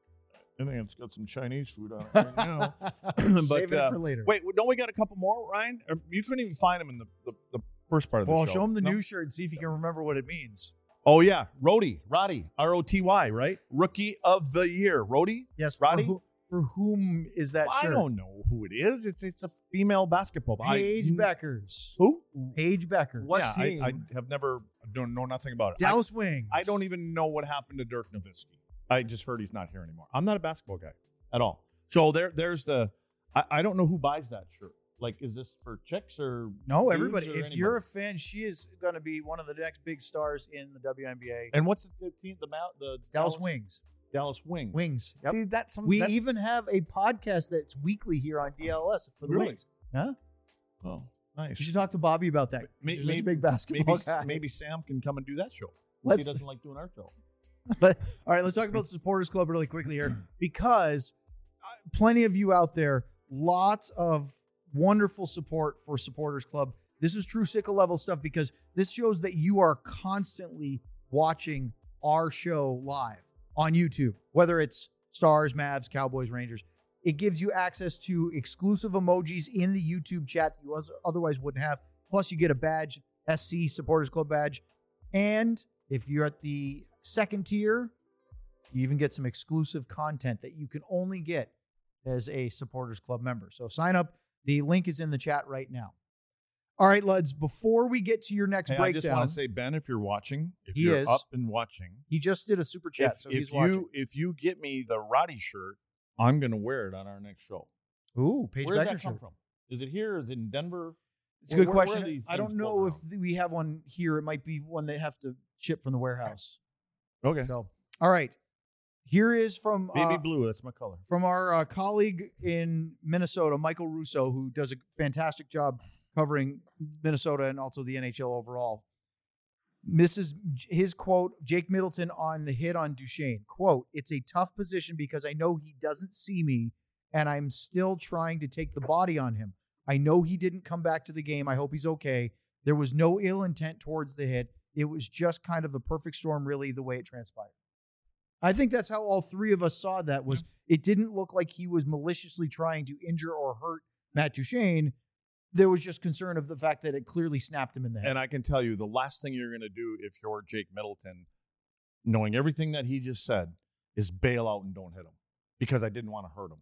I think it's got some Chinese food on it right now. but Save it uh, for later. Wait, don't we got a couple more, Ryan? Or you couldn't even find them in the, the, the first part of the well, show. show him the No? new shirt and see if you can remember what it means. Oh, yeah. Rody. Roddy. R O T Y, right? Rookie of the year. Rody? Yes, Roddy? For, who, for whom is that Well, shirt? I don't know who it is. It's it's a female basketball. Paige I, Beckers. Who? Paige Beckers. What yeah, I, I have never, don't know nothing about it. Dallas I, Wings. I don't even know what happened to Dirk Nowitzki. I just heard he's not here anymore. I'm not a basketball guy at all. So there, there's the, I, I don't know who buys that shirt. Like, is this for chicks or No, dudes everybody. or If anybody? you're a fan, she is going to be one of the next big stars in the W N B A. And what's the team? The, Mount, the Dallas, Dallas Wings. Dallas Wings. Wings. Yep. See, that's some, we that, even have a podcast that's weekly here on D L S for the Really? Wings. Huh? Oh, nice. You should talk to Bobby about that. May- He's maybe- such a big basketball maybe guy. maybe Sam can come and do that show. Let's- He doesn't like doing our show. But all right, let's talk about the Supporters Club really quickly here because uh, plenty of you out there, lots of wonderful support for Supporters Club. This is true sickle level stuff because this shows that you are constantly watching our show live on YouTube, whether it's Stars, Mavs, Cowboys, Rangers. It gives you access to exclusive emojis in the YouTube chat that you otherwise wouldn't have. Plus, you get a badge, S C Supporters Club badge. And if you're at the second tier, you even get some exclusive content that you can only get as a Supporters Club member. So sign up. The link is in the chat right now. All right, Luds, before we get to your next Hey, I breakdown, just want to say, Ben, if you're watching, if He you're is. up and watching, he just did a super chat, if, so if he's you watching. if you get me the Roddy shirt, I'm going to wear it on our next show. Ooh, Paige Where does Becker that come shirt. from? Is it here? Is it in Denver? It's a good Where- where are question. these I don't things know if floating we have one here. It might be one they have to ship from the warehouse. around? Okay. So, all right. Here is from Baby uh, blue, that's my color. from our uh, colleague in Minnesota, Michael Russo, who does a fantastic job covering Minnesota and also the N H L overall. This is his quote, Jake Middleton on the hit on Duchene. Quote, "It's a tough position because I know he doesn't see me and I'm still trying to take the body on him. I know he didn't come back to the game. I hope he's okay. There was no ill intent towards the hit. It was just kind of the perfect storm, really, the way it transpired." I think that's how all three of us saw that was it didn't look like he was maliciously trying to injure or hurt Matt Duchene. There was just concern of the fact that it clearly snapped him in the head. And I can tell you, the last thing you're going to do if you're Jake Middleton, knowing everything that he just said, is bail out and don't hit him because I didn't want to hurt him.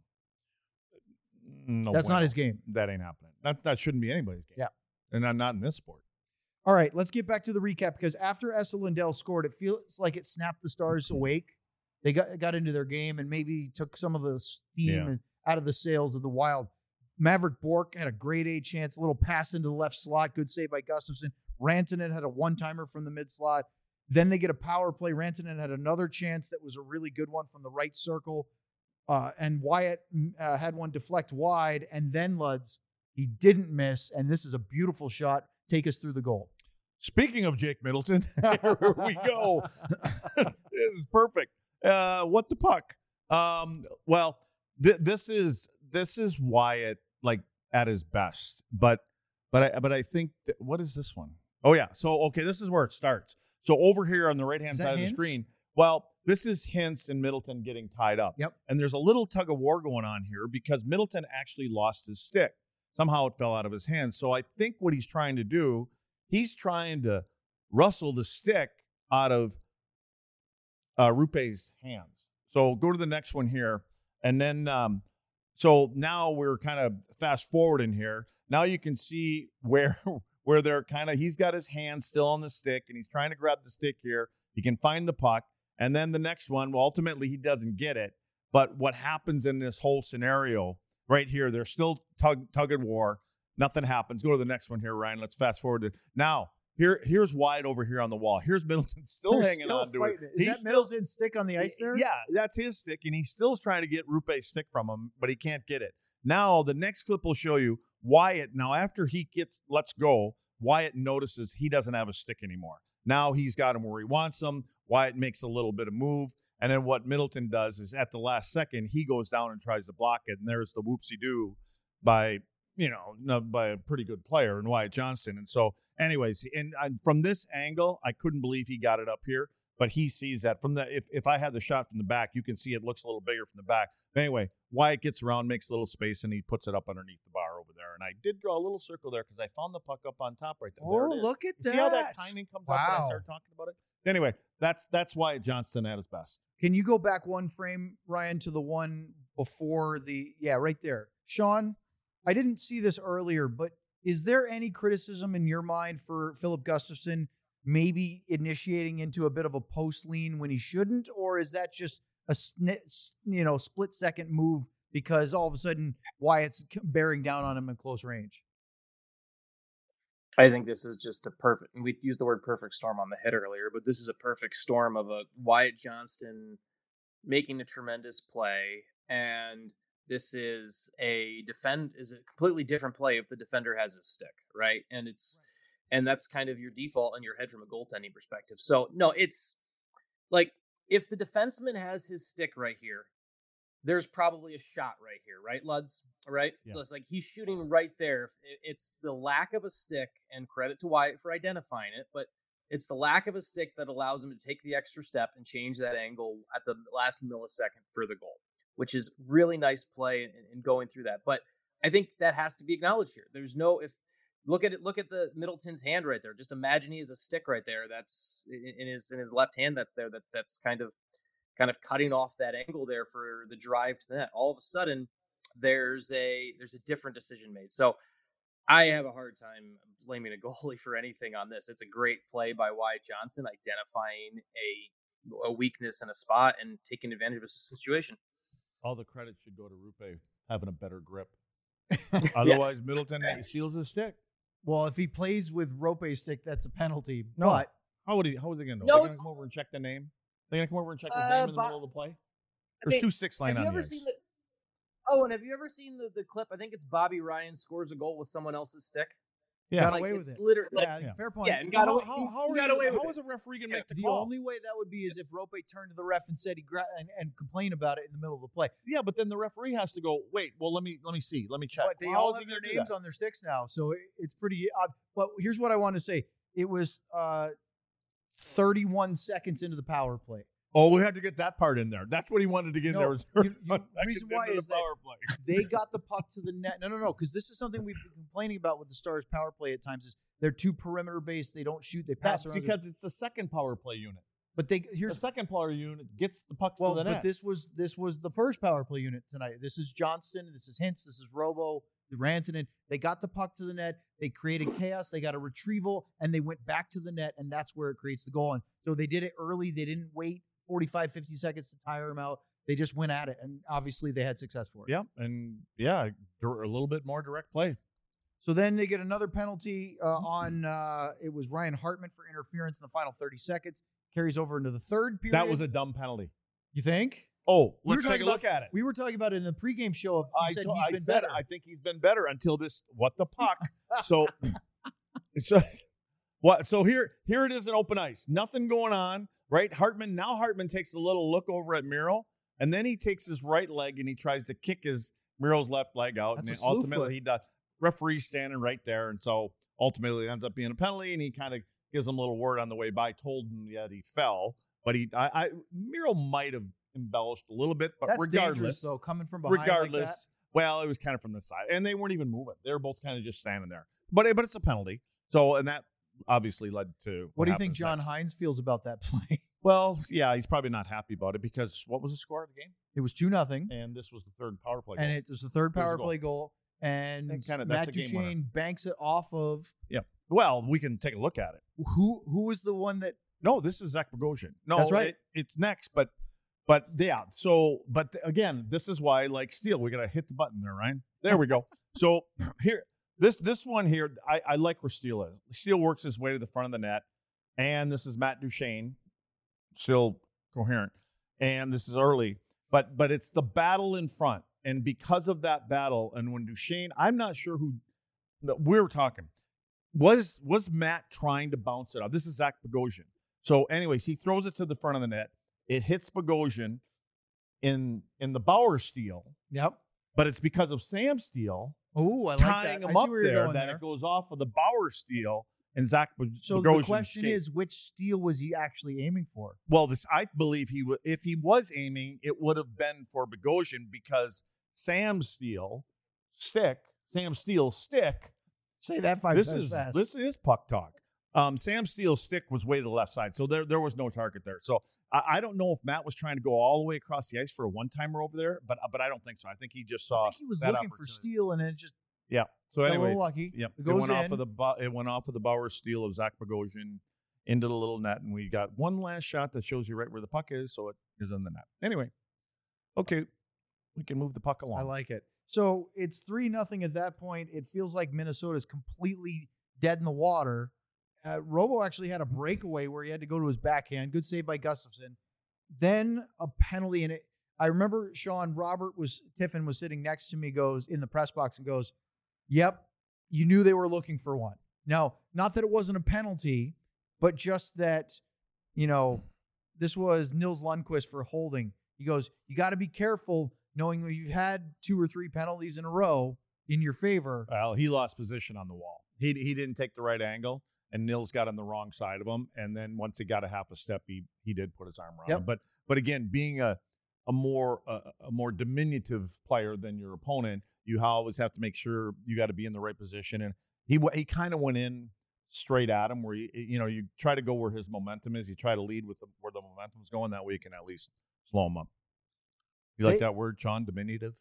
No, That's bueno. not his game. That ain't happening. That that shouldn't be anybody's game. Yeah. And not, not in this sport. All right, let's get back to the recap because after Esa Lindell scored, it feels like it snapped the Stars awake. They got got into their game and maybe took some of the steam Yeah. out of the sails of the Wild. Maverick Bork had a grade A chance, a little pass into the left slot, good save by Gustafsson. Rantanen had a one-timer from the mid slot. Then they get a power play. Rantanen had another chance that was a really good one from the right circle. Uh, and Wyatt uh, had one deflect wide. And then Luds, he didn't miss. And this is a beautiful shot. take us through the goal. Speaking of Jake Middleton, here we go. This is perfect. Uh, what the puck? Um, well, th- this is this is Wyatt like at his best, but but I but I think that, what is this one? Oh yeah. So okay, this is where it starts. So over here on the right hand side of the screen, well, this is Hintz and Middleton getting tied up. Yep. And there's a little tug of war going on here because Middleton actually lost his stick. Somehow it fell out of his hands. So I think what he's trying to do, he's trying to rustle the stick out of uh, Rupe's hands. So go to the next one here. And then, um, so now we're kind of fast forward in here. Now you can see where, where they're kind of, he's got his hand still on the stick and he's trying to grab the stick here. He can find the puck. And then the next one, well, ultimately he doesn't get it. But what happens in this whole scenario right here, they're still tug, tug and war. Nothing happens. Go to the next one here, Ryan. Let's fast forward to now. Here, here's Wyatt over here on the wall. Here's Middleton still They're hanging still on to it. fighting. Is that Middleton's stick on the ice there? Yeah, that's his stick, and he's still trying to get Rupe's stick from him, but he can't get it. Now, the next clip will show you Wyatt. Now, after he gets lets go, Wyatt notices he doesn't have a stick anymore. Now he's got him where he wants him. Wyatt makes a little bit of move, and then what Middleton does is at the last second, he goes down and tries to block it, and there's the whoopsie-doo by – you know, by a pretty good player in Wyatt Johnston. And so anyways, and, and from this angle, I couldn't believe he got it up here, but he sees that from the, if, if I had the shot from the back, you can see it looks a little bigger from the back. But anyway, Wyatt gets around, makes a little space, and he puts it up underneath the bar over there. And I did draw a little circle there because I found the puck up on top right there. Oh, there look at you that. See how that timing comes wow. up when I start talking about it? Anyway, that's, that's Wyatt Johnston at his best. Can you go back one frame, Ryan, to the one before the, yeah, right there. Sean, I didn't see this earlier, but is there any criticism in your mind for Philip Gustafson maybe initiating into a bit of a post lean when he shouldn't, or is that just a you know split second move because all of a sudden Wyatt's bearing down on him in close range? I think this is just a perfect, and we used the word perfect storm on the hit earlier, but this is a perfect storm of a Wyatt Johnston making a tremendous play, and this is a defend is a completely different play if the defender has his stick, right? And it's and that's kind of your default in your head from a goaltending perspective. So no, it's like if the defenseman has his stick right here, there's probably a shot right here, right, Luds? Right? Yeah. So it's like he's shooting right there. It's the lack of a stick, and credit to Wyatt for identifying it, but it's the lack of a stick that allows him to take the extra step and change that angle at the last millisecond for the goal, which is really nice play in, in going through that. But I think that has to be acknowledged here. There's no, if look at it, look at the Middleton's hand right there. Just imagine he has a stick right there. That's in, in his, in his left hand. That's there. That that's kind of, kind of cutting off that angle there for the drive to the net. All of a sudden there's a, there's a different decision made. So I have a hard time blaming a goalie for anything on this. It's a great play by Wyatt Johnston, identifying a, a weakness in a spot and taking advantage of a situation. All the credit should go to Rupe having a better grip. Otherwise, Yes. Middleton Yes. steals his stick. Well, if he plays with Rope's stick, that's a penalty. No. But How would he? How is he going to know? No, They're going it's- to come over and check the name. They're going to come over and check his Uh, name in the Bob- middle of the play. I There's mean, two sticks laying have on you the ever ice. seen the? Oh, and have you ever seen the, the clip? I think it's Bobby Ryan scores a goal with someone else's stick. Yeah. got like, away with it's it. literally like, yeah, yeah. fair point. yeah, and got how, away. How, he- how, he are got you- away with how it. is a referee going to Yeah. make the, The call? only way that would be is if Rope turned to the ref and said he gra- and, and complained about it in the middle of the play. Yeah, but then the referee has to go. Wait, well, let me let me see. Let me check. But they Well, how all is he have their gonna do names that? on their sticks now, so it, it's pretty. Uh, but here's what I want to say: it was uh, thirty-one seconds into the power play. Oh, we had to get that part in there. That's what he wanted to get in No, there. Was you- you- thirty-one reason seconds why into is the that- power play. They got the puck to the net. No, no, no, because this is something we've been complaining about with the Stars' power play at times. Is they're too perimeter based. They don't shoot. They pass That's around. because it's the second power play unit. but they The here's second power unit gets the pucks well, to the but net. this was this was the first power play unit tonight. This is Johnston. This is Hintz. This is Robo. Rantanen. They got the puck to the net. They created chaos. They got a retrieval, and they went back to the net, and that's where it creates the goal. And so they did it early. They didn't wait forty-five, fifty seconds to tire him out. They just went at it, and obviously they had success for it. yeah, and yeah, dir- a little bit more direct play. So then they get another penalty uh, on, uh, it was Ryan Hartman for interference in the final thirty seconds. Carries over into the third period. That was a dumb penalty. You think? Oh, We were let's take a talking look at it. We were talking about it in the pregame show. Of, you I, said to- he's I been said better. I think he's been better until this. What the puck? So So, what? So here, here it is in open ice. Nothing going on, right? Hartman. Now Hartman takes a little look over at Miro, and then he takes his right leg and he tries to kick his Miro's left leg out, That's and a then ultimately foot. he does. Referee standing right there, and so ultimately it ends up being a penalty, and he kind of gives him a little word on the way by, told him that he fell, but he, I, I Miro might have embellished a little bit, but That's dangerous, regardless, though, coming from behind regardless, like that. well, it was kind of from the side, and they weren't even moving; they were both kind of just standing there. But but it's a penalty, so and that obviously led to What do you think happens John next. Hines feels about that play? Well, yeah, he's probably not happy about it because what was the score of the game? It was two nothing, And this was the third power play. and goal. it was the third It was a power goal. play goal, and And kinda- that's Matt a game winner. Duchesne banks it off of Well, we can take a look at it. who? Who was the one that? No, this is Zach Bogosian. No, That's right. it- it's next, but but yeah. So, but th- again, this is why, like Steele, we gotta hit the button there, Ryan. There we go. So here, this this one here, I, I like where Steele is. Steele works his way to the front of the net, and this is Matt Duchesne, still coherent, and this is early, but but it's the battle in front, and because of that battle, and when Duchesne, I'm not sure who no, we were talking. Was was Matt trying to bounce it off? This is Zach Bogosian. So, anyways, he throws it to the front of the net. It hits Bogosian in in the Bauer steal, Yep. but it's because of Sam Steele Oh, I like tying that. him I see up where you're there going that there. it goes off of the Bauer steal and Zach Bo- So Bogosian the question skate. is, which steal was he actually aiming for? Well, this I believe he would if he was aiming, it would have been for Bogosian because Sam Steele stick, Sam Steele's stick. Say that five This times is fast. this is puck talk. Um, Sam Steele's stick was way to the left side, so there there was no target there. So I, I don't know if Matt was trying to go all the way across the ice for a one timer over there, but but I don't think so. I think he just saw. I think he was that looking for opportunity. steal, and then it just Yeah. So got a anyway, little lucky. yep, It it, goes went off in. of the Bo- it went off of the Bauer steal of Zach Bogosian into the little net, and we got one last shot that shows you right where the puck is, so it is in the net. Anyway, okay, we can move the puck along. I like it. So it's three nothing at that point. It feels like Minnesota's completely dead in the water. Uh, Robo actually had a breakaway where he had to go to his backhand. Good save by Gustafson. Then a penalty, and it. I remember Sean Robert was Tiffin was sitting next to me. Goes in the press box and goes, "Yep, you knew they were looking for one." Now, not that it wasn't a penalty, but just that, you know, this was Nils Lundqvist for holding. He goes, "You got to be careful, knowing that you've had two or three penalties in a row in your favor." Well, he lost position on the wall. He he didn't take the right angle, and Nils got on the wrong side of him. And then once he got a half a step, he he did put his arm around Yep. him. But but again, being a a more uh, a more diminutive player than your opponent, you always have to make sure you got to be in the right position. And he w- he kind of went in straight at him, where you you know you try to go where his momentum is. You try to lead with the, where the momentum's going. That way, you can at least slow him up. You like Hey- that word, Sean? Diminutive.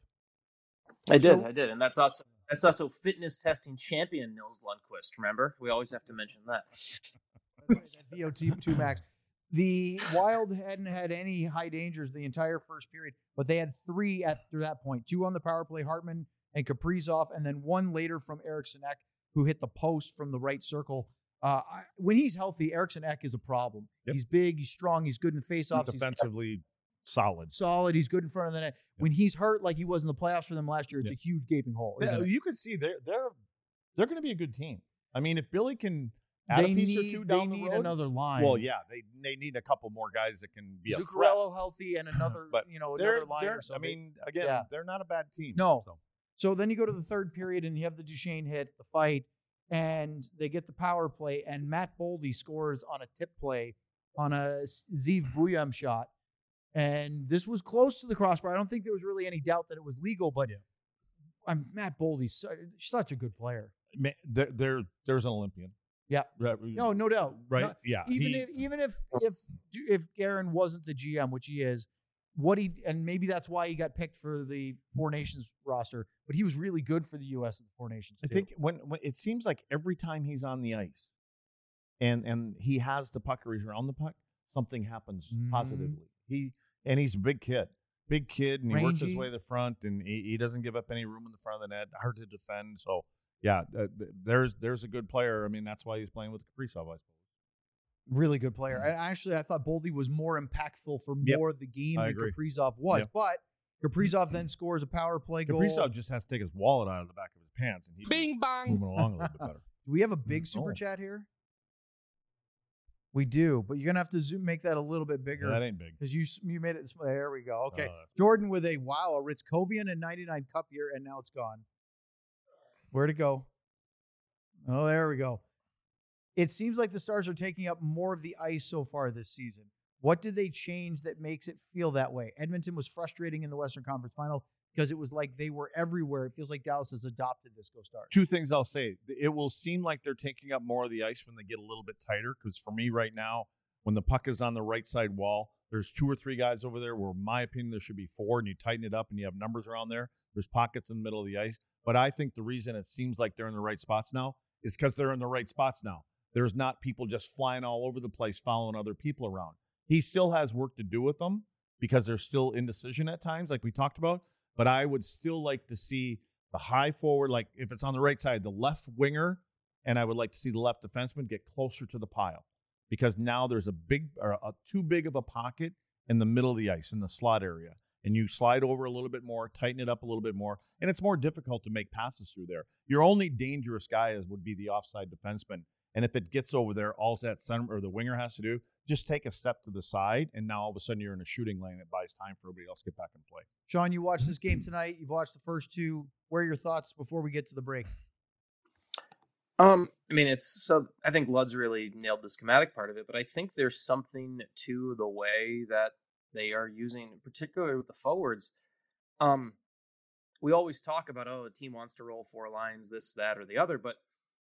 I did, So- I did, and that's also that's also fitness testing champion Nils Lundqvist. Remember, we always have to mention that. That V O two max. The Wild hadn't had any high dangers the entire first period, but they had three after that point. Two on the power play, Hartman and Kaprizov, and then one later from Eriksson Ek, who hit the post from the right circle. Uh, I, when he's healthy, Eriksson Ek is a problem. Yep. He's big, he's strong, he's good in faceoffs, he's Defensively solid. solid, he's good in front of the net. When he's hurt, like he was in the playoffs for them last year, it's Yep. a huge gaping hole. Yeah, Isn't it? you can see they're they're they're going to be a good team. I mean, if Billy can add They a piece or need, two they down the need road, another line. well, yeah, they they need a couple more guys that can be a threat. Zuccarello healthy and another, But you know, They're, another line they're or I something. mean, again, Yeah. they're not a bad team. No. So. So then you go to the third period and you have the Duchesne hit, the fight, and they get the power play, and Matt Boldy scores on a tip play on a Ziv Buyam shot. And this was close to the crossbar. I don't think there was really any doubt that it was legal, but Yeah. I'm Matt Boldy's su- such a good player. Ma- there, there there's an Olympian. Yeah. Right. No, no doubt. Right. No- yeah. even he- if even if if if Guerin wasn't the G M, which he is, what he and maybe that's why he got picked for the Four Nations roster, but he was really good for the U S at the Four Nations. I too. think when, when it seems like every time he's on the ice, and and he has the puck or he's around the puck, something happens Mhm. positively. He and he's a big kid, big kid, and he works his Rangy. way to the front, and he, he doesn't give up any room in the front of the net. Hard to defend. So yeah, uh, th- there's there's a good player. I mean, that's why he's playing with Kaprizov, I suppose. Really good player. And actually, I thought Boldy was more impactful for Yep. more of the game I than agree. Kaprizov was. Yep. But Kaprizov then scores a power play goal. Kaprizov just has to take his wallet out of the back of his pants, and he's Bing bong. moving along a little bit better. Do we have a big super Oh. chat here? We do, but you're gonna have to zoom, make that a little bit bigger. Yeah, that ain't big. Because you you made it. There we go. Okay, Uh, Jordan with a wow, a Ritzkovian and ninety-nine cup here, and now it's gone. Where'd it go? Oh, there we go. It seems like the Stars are taking up more of the ice so far this season. What did they change that makes it feel that way? Edmonton was frustrating in the Western Conference Final because it was like they were everywhere. It feels like Dallas has adopted this. Go Stars. Two things I'll say. It will seem like they're taking up more of the ice when they get a little bit tighter, because for me right now, when the puck is on the right side wall, there's two or three guys over there where, in my opinion, there should be four, and you tighten it up and you have numbers around there. There's pockets in the middle of the ice. But I think the reason it seems like they're in the right spots now is because they're in the right spots now. There's not people just flying all over the place following other people around. He still has work to do with them because there's still indecision at times, like we talked about. But I would still like to see the high forward, like if it's on the right side, the left winger, and I would like to see the left defenseman get closer to the pile, because now there's a big or a, too big of a pocket in the middle of the ice in the slot area. And you slide over a little bit more, tighten it up a little bit more, and it's more difficult to make passes through there. Your only dangerous guy is would be the offside defenseman. And if it gets over there, all that center or the winger has to do, just take a step to the side, and now all of a sudden you're in a shooting lane. It buys time for everybody else to get back and play. Sean, you watched this game tonight. You've watched the first two. What are your thoughts before we get to the break? Um, I mean, it's so I think Lud's really nailed the schematic part of it, but I think there's something to the way that they are using, particularly with the forwards. Um, we always talk about, oh, a team wants to roll four lines, this, that, or the other, but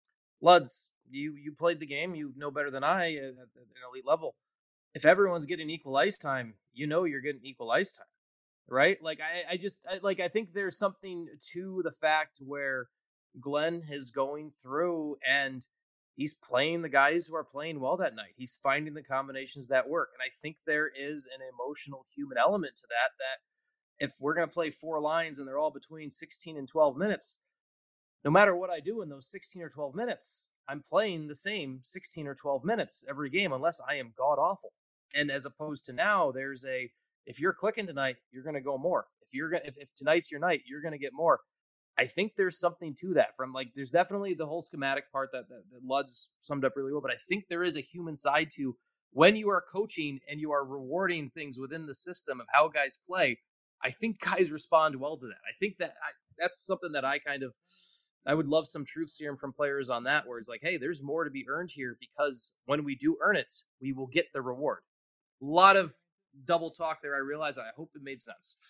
Luds, you you played the game. You know better than I at, at an elite level. If everyone's getting equal ice time, you know you're getting equal ice time, right? Like I, I just I, like I think there's something to the fact where Glenn is going through and he's playing the guys who are playing well that night. He's finding the combinations that work, and I think there is an emotional human element to that. That if we're going to play four lines and they're all between sixteen and twelve minutes. No matter what I do in those sixteen or twelve minutes, I'm playing the same sixteen or twelve minutes every game unless I am god-awful. And as opposed to now, there's a, if you're clicking tonight, you're going to go more. If you're if, if tonight's your night, you're going to get more. I think there's something to that from like, there's definitely the whole schematic part that, that, that Lud's summed up really well, but I think there is a human side to when you are coaching and you are rewarding things within the system of how guys play. I think guys respond well to that. I think that I, that's something that I kind of, I would love some truth serum from players on that, where it's like, hey, there's more to be earned here because when we do earn it, we will get the reward. A lot of double talk there. I realize. I hope it made sense.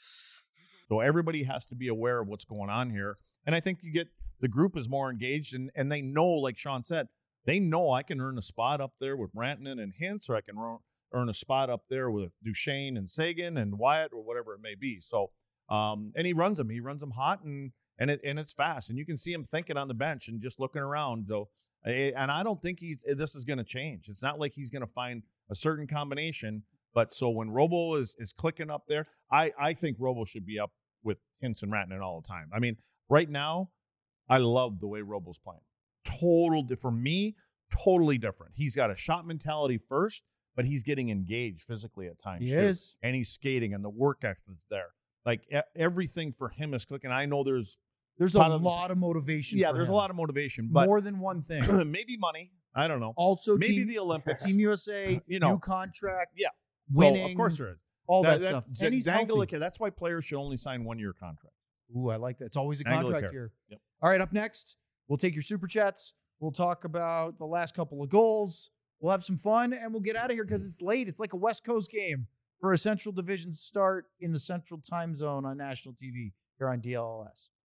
So everybody has to be aware of what's going on here. And I think you get the group is more engaged, and, and they know, like Sean said, they know I can earn a spot up there with Rantanen and Hintz, or I can earn a spot up there with Duchesne and Sagan and Wyatt or whatever it may be. So, um, and he runs them. He runs them hot, and And it and it's fast, and you can see him thinking on the bench and just looking around. Though, and I don't think he's this is going to change. It's not like he's going to find a certain combination. But so when Robo is is clicking up there, I I think Robo should be up with Hintz and Rantanen all the time. I mean, right now, I love the way Robo's playing. Total for me, totally different. He's got a shot mentality first, but he's getting engaged physically at times. He too. is, And he's skating, and the work ethic's there. Like e- everything for him is clicking. I know there's. there's a Ton of- lot of motivation. Yeah, for there's him. a lot of motivation, but More than one thing. maybe money. I don't know. Also, Maybe team, the Olympics. Team U S A, You know. new contract, Yeah. winning, So, of course there is. all that, That- stuff. that- And he's Dangle, healthy. okay, that's why players should only sign one-year contracts. Ooh, I like that. It's always a Angle contract care. here. Yep. All right, up next, we'll take your super chats. We'll talk about the last couple of goals. We'll have some fun, and we'll get out of here because it's late. It's like a West Coast game for a Central Division start in the Central Time Zone on national T V here on D L L S.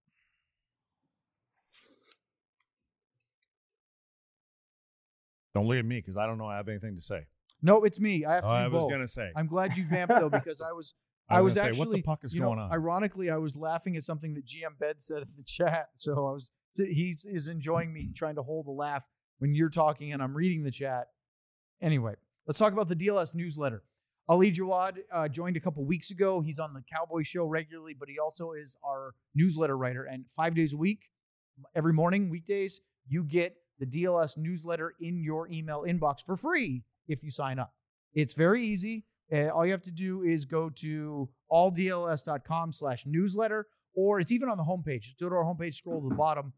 Don't look at me because I don't know I have anything to say. No, it's me. I have to Oh, do I was both. going to say. I'm glad you vamped though because I was I I was was gonna say, actually what the puck is you know, going on? Ironically, I was laughing at something that G M Bed said in the chat. So I was he's is enjoying me trying to hold a laugh when you're talking and I'm reading the chat. Anyway, let's talk about the D L S newsletter. Ali Jawad uh, joined a couple weeks ago. He's on the Cowboy Show regularly, but he also is our newsletter writer. And five days a week, every morning, weekdays, you get the D L S newsletter in your email inbox for free if you sign up. It's very easy. Uh, all you have to do is go to alldls.com slash newsletter, or it's even on the homepage. Just go to our homepage, scroll to the bottom,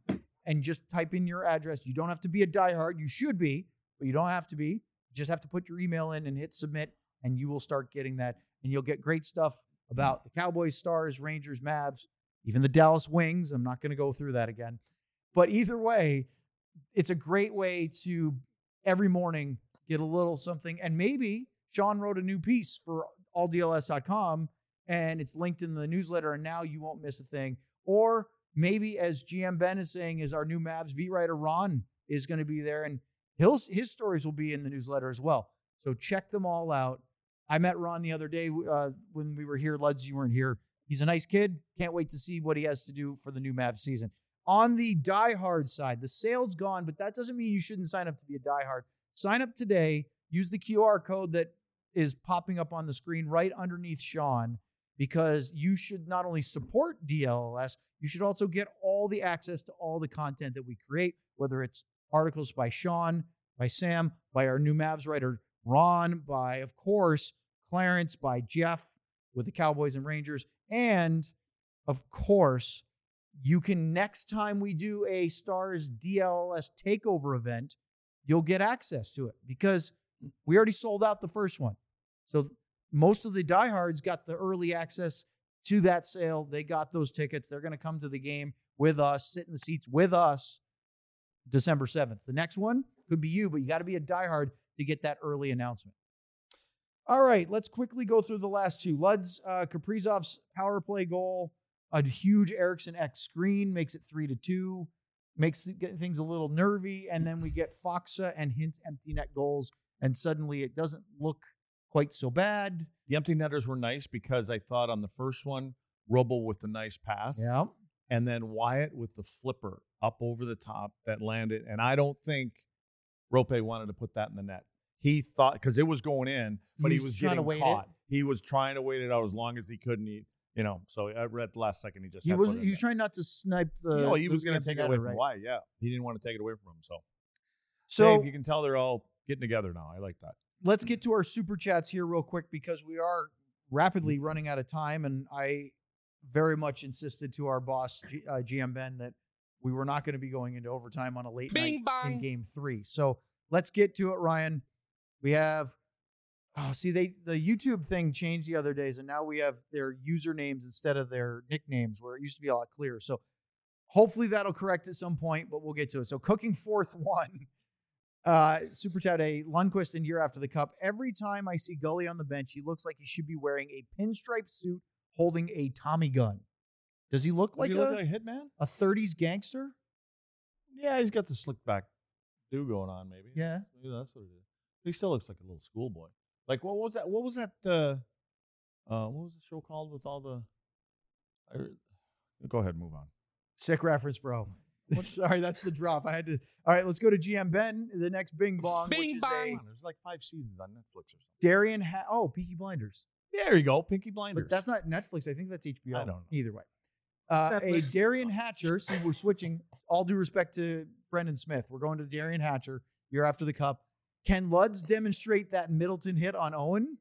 and just type in your address. You don't have to be a diehard. You should be, but you don't have to be. You just have to put your email in and hit submit, and you will start getting that. And you'll get great stuff about the Cowboys, Stars, Rangers, Mavs, even the Dallas Wings. I'm not going to go through that again. But either way, it's a great way to every morning get a little something. And maybe Sean wrote a new piece for all D L S dot com, and it's linked in the newsletter, and now you won't miss a thing. Or maybe, as G M Ben is saying, is our new Mavs beat writer, Ron, is going to be there, and he'll, his stories will be in the newsletter as well. So check them all out. I met Ron the other day uh, when we were here. Luds, you weren't here. He's a nice kid. Can't wait to see what he has to do for the new Mavs season. On the diehard side, the sale's gone, but that doesn't mean you shouldn't sign up to be a diehard. Sign up today. Use the Q R code that is popping up on the screen right underneath Sean, because you should not only support D L S, you should also get all the access to all the content that we create, whether it's articles by Sean, by Sam, by our new Mavs writer, Ron, by, of course, Clarence, by Jeff with the Cowboys and Rangers, and, of course, you can, next time we do a Stars D L S takeover event, you'll get access to it because we already sold out the first one. So most of the diehards got the early access to that sale. They got those tickets. They're going to come to the game with us, sit in the seats with us December seventh. The next one could be you, but you got to be a diehard to get that early announcement. All right, let's quickly go through the last two. Luds, uh, Kaprizov's power play goal, a huge Eriksson X screen, makes it three to two, makes things a little nervy, and then we get Faksa and Hintz empty net goals, and suddenly it doesn't look quite so bad. The empty netters were nice because I thought on the first one, Robo with the nice pass. Yeah. And then Wyatt with the flipper up over the top that landed. And I don't think Rope wanted to put that in the net. He thought, because it was going in, but he, he was getting caught. It. He was trying to wait it out as long as he could. And he, you know, so at the last second, he just he was he was trying not to snipe the. No, he was going to take it away from right? Wyatt. Yeah, he didn't want to take it away from him. So, so Dave, you can tell they're all getting together now. I like that. Let's get to our super chats here real quick because we are rapidly running out of time, and I very much insisted to our boss, G, uh, G M Ben, that we were not going to be going into overtime on a late Bing night bang. in game three. So let's get to it, Ryan. We have, oh, see, they the YouTube thing changed the other days, and now we have their usernames instead of their nicknames, where it used to be a lot clearer. So hopefully that'll correct at some point, but we'll get to it. So Cooking Fourth one. Uh, Super Chat A, Lundqvist in Year After the Cup. Every time I see Gully on the bench, he looks like he should be wearing a pinstripe suit holding a Tommy gun. Does he look Does like he a, look like a hitman? A thirties gangster? Yeah, he's got the slick back do going on, maybe. Yeah. Maybe that's what it is. He still looks like a little schoolboy. Like, what was that? What was that? Uh, uh, what was the show called with all the... I, go ahead, move on. Sick reference, bro. Sorry, that's the drop. I had to. All right, let's go to G M Ben. The next Bing Bong. Bing which is Bong. a There's like five seasons on Netflix or something. Darian. Ha- oh, Peaky Blinders. There you go, Pinky Blinders. But that's not Netflix. I think that's H B O. I don't know. Either way. Uh, a Netflix. Darian Hatcher. See, we're switching. All due respect to Brendan Smith. We're going to Darian Hatcher. Year After the Cup. Can Luds demonstrate that Middleton hit on Owen?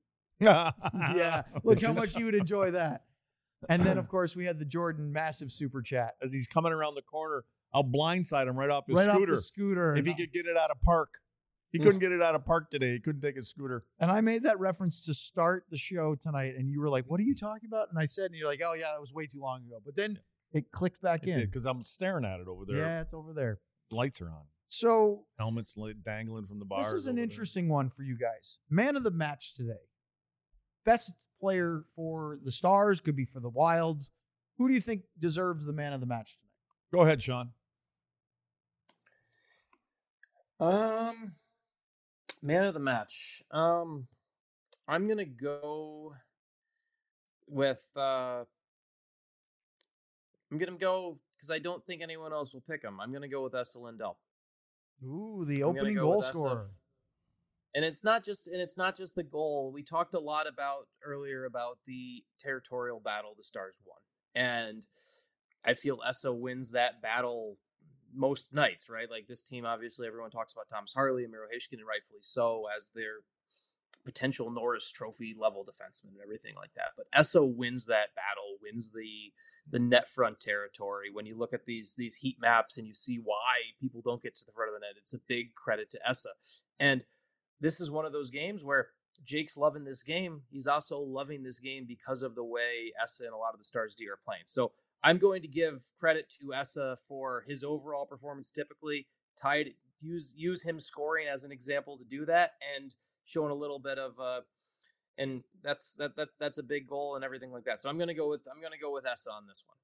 Yeah. Look how much you would enjoy that. And then, of course, we had the Jordan massive super chat. As he's coming around the corner, I'll blindside him right off his right scooter. off the scooter. If he could get it out of park. He couldn't get it out of park today. He couldn't take his scooter. And I made that reference to start the show tonight, and you were like, what are you talking about? And I said, and you're like, oh, yeah, that was way too long ago. But then yeah. it clicked back it in. Because I'm staring at it over there. Yeah, it's over there. Lights are on. So helmets dangling from the bars. This is an over interesting there. one for you guys. Man of the match today. Best player for the Stars, could be for the Wild. Who do you think deserves the man of the match tonight? Go ahead, Sean. Um, man of the match. Um, I'm gonna go with. Uh, I'm gonna go because I don't think anyone else will pick him. I'm gonna go with Esa Lindell. Ooh, the opening goal scorer. And it's not just and it's not just the goal. We talked a lot about earlier about the territorial battle the Stars won. And I feel Esa wins that battle most nights, right? Like this team, obviously, everyone talks about Thomas Harley and Miro Heiskanen, rightfully so, as their potential Norris Trophy level defenseman and everything like that. But Essa wins that battle, wins the the net front territory. When you look at these these heat maps and you see why people don't get to the front of the net, it's a big credit to Essa. And this is one of those games where Jake's loving this game. He's also loving this game because of the way Essa and a lot of the Stars D are playing. So I'm going to give credit to Essa for his overall performance. Typically, tied use use him scoring as an example to do that, and showing a little bit of uh, and that's that that's that's a big goal and everything like that. So I'm gonna go with I'm gonna go with Essa on this one.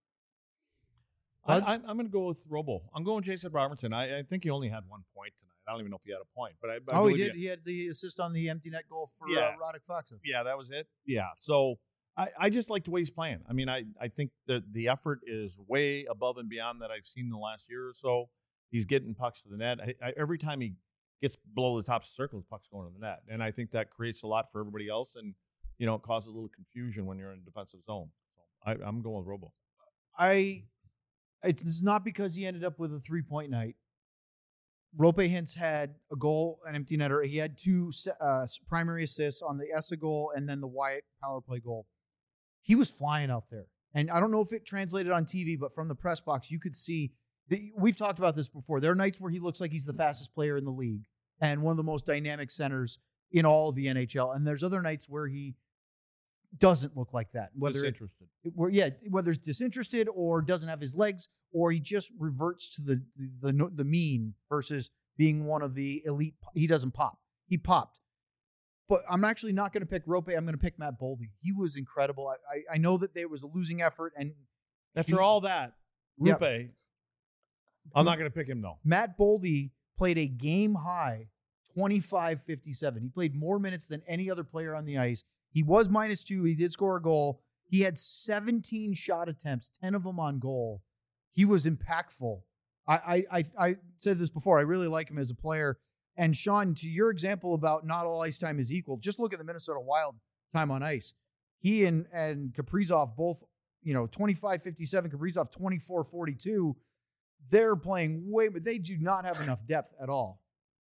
I, I'm, I'm going to go with Robo. I'm going Jason Robertson. I, I think he only had one point tonight. I don't even know if he had a point, but I, I oh, he believe did. He had the assist on the empty net goal for Yeah. uh, Radek Faksa. Yeah, that was it. Yeah. So I, I just like the way he's playing. I mean, I, I think that the effort is way above and beyond that I've seen in the last year or so. He's getting pucks to the net. I, I, every time he gets below the top circle, the puck's going to the net. And I think that creates a lot for everybody else. And, you know, it causes a little confusion when you're in a defensive zone. So I, I'm going with Robo. I. It's not because he ended up with a three-point night. Rope Hintz had a goal, an empty netter. He had two uh, primary assists on the Essa goal and then the Wyatt power play goal. He was flying out there. And I don't know if it translated on T V, but from the press box, you could see that we've talked about this before. There are nights where he looks like he's the fastest player in the league and one of the most dynamic centers in all of the N H L. And there's other nights where he doesn't look like that. Whether Disinterested. It, where, yeah, whether it's disinterested or doesn't have his legs, or he just reverts to the the the, the mean versus being one of the elite. He doesn't pop. He popped. But I'm actually not going to pick Rope. I'm going to pick Matt Boldy. He was incredible. I, I I know that there was a losing effort, and After he, all that, Yeah. Rupe, I'm not going to pick him, though. Matt Boldy played a game high twenty-five fifty-seven. He played more minutes than any other player on the ice. He was minus two. He did score a goal. He had seventeen shot attempts, ten of them on goal. He was impactful. I, I, I, I said this before. I really like him as a player. And Sean, to your example about not all ice time is equal, just look at the Minnesota Wild time on ice. He and, and Kaprizov both, you know, twenty-five fifty-seven, Kaprizov twenty-four forty-two. They're playing way, but they do not have enough depth at all.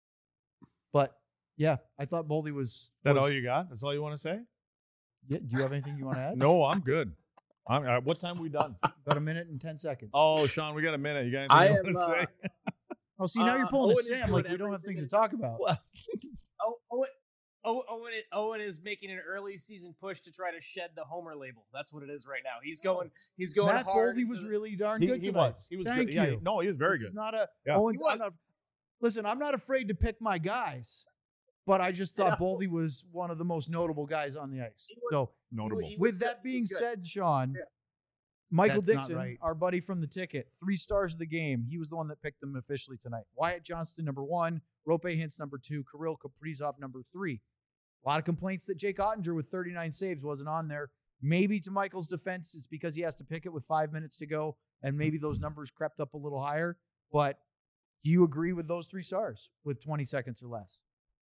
But yeah, I thought Boldy was. Is that was all you got? That's all you want to say? yeah, do you have anything you want to add? No, I'm good. I'm, uh, what time are we done? About a minute and ten seconds. Oh, Sean, we got a minute. You got anything I you am, want to uh, say? Oh, see, now uh, you're pulling Owen a is Sam doing like we don't have things to everything- talk about. Well, Oh, Owen, oh, Owen, Owen is making an early season push to try to shed the homer label. That's what it is right now. He's going. He's going Matt hard. Boldy was to the- really darn he, good he tonight. was. He was Thank good. Yeah, you. no, he was very this good. is not a Yeah. Owens. He I'm was. not, listen, I'm not afraid to pick my guys, but I just thought Yeah. Boldy was one of the most notable guys on the ice. He was- So, Notable. he was with good. that He being was good. said, Sean, Yeah. Michael That's not Dixon, right. our buddy from the ticket, three stars of the game. He was the one that picked them officially tonight. Wyatt Johnston, number one. Rope Hintz, number two. Kirill Kaprizov, number three. A lot of complaints that Jake Ottinger with thirty-nine saves wasn't on there. Maybe to Michael's defense, it's because he has to pick it with five minutes to go, and maybe those numbers crept up a little higher. But do you agree with those three stars with twenty seconds or less?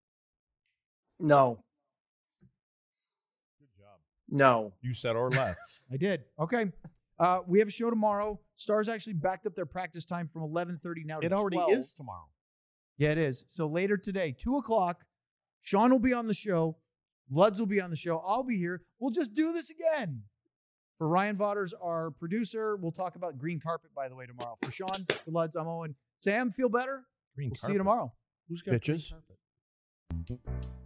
No, Good job. no. You said or less. I did. Okay. Uh, we have a show tomorrow. Stars actually backed up their practice time from eleven thirty now to It already twelve. is tomorrow. Yeah, it is. So later today, two o'clock, Sean will be on the show. Luds will be on the show. I'll be here. We'll just do this again. For Ryan Vaughters, our producer, we'll talk about green carpet, by the way, tomorrow. For Sean, for Luds, I'm Owen. Sam, feel better? Green We'll see you tomorrow. Who's got green Bitches. carpet?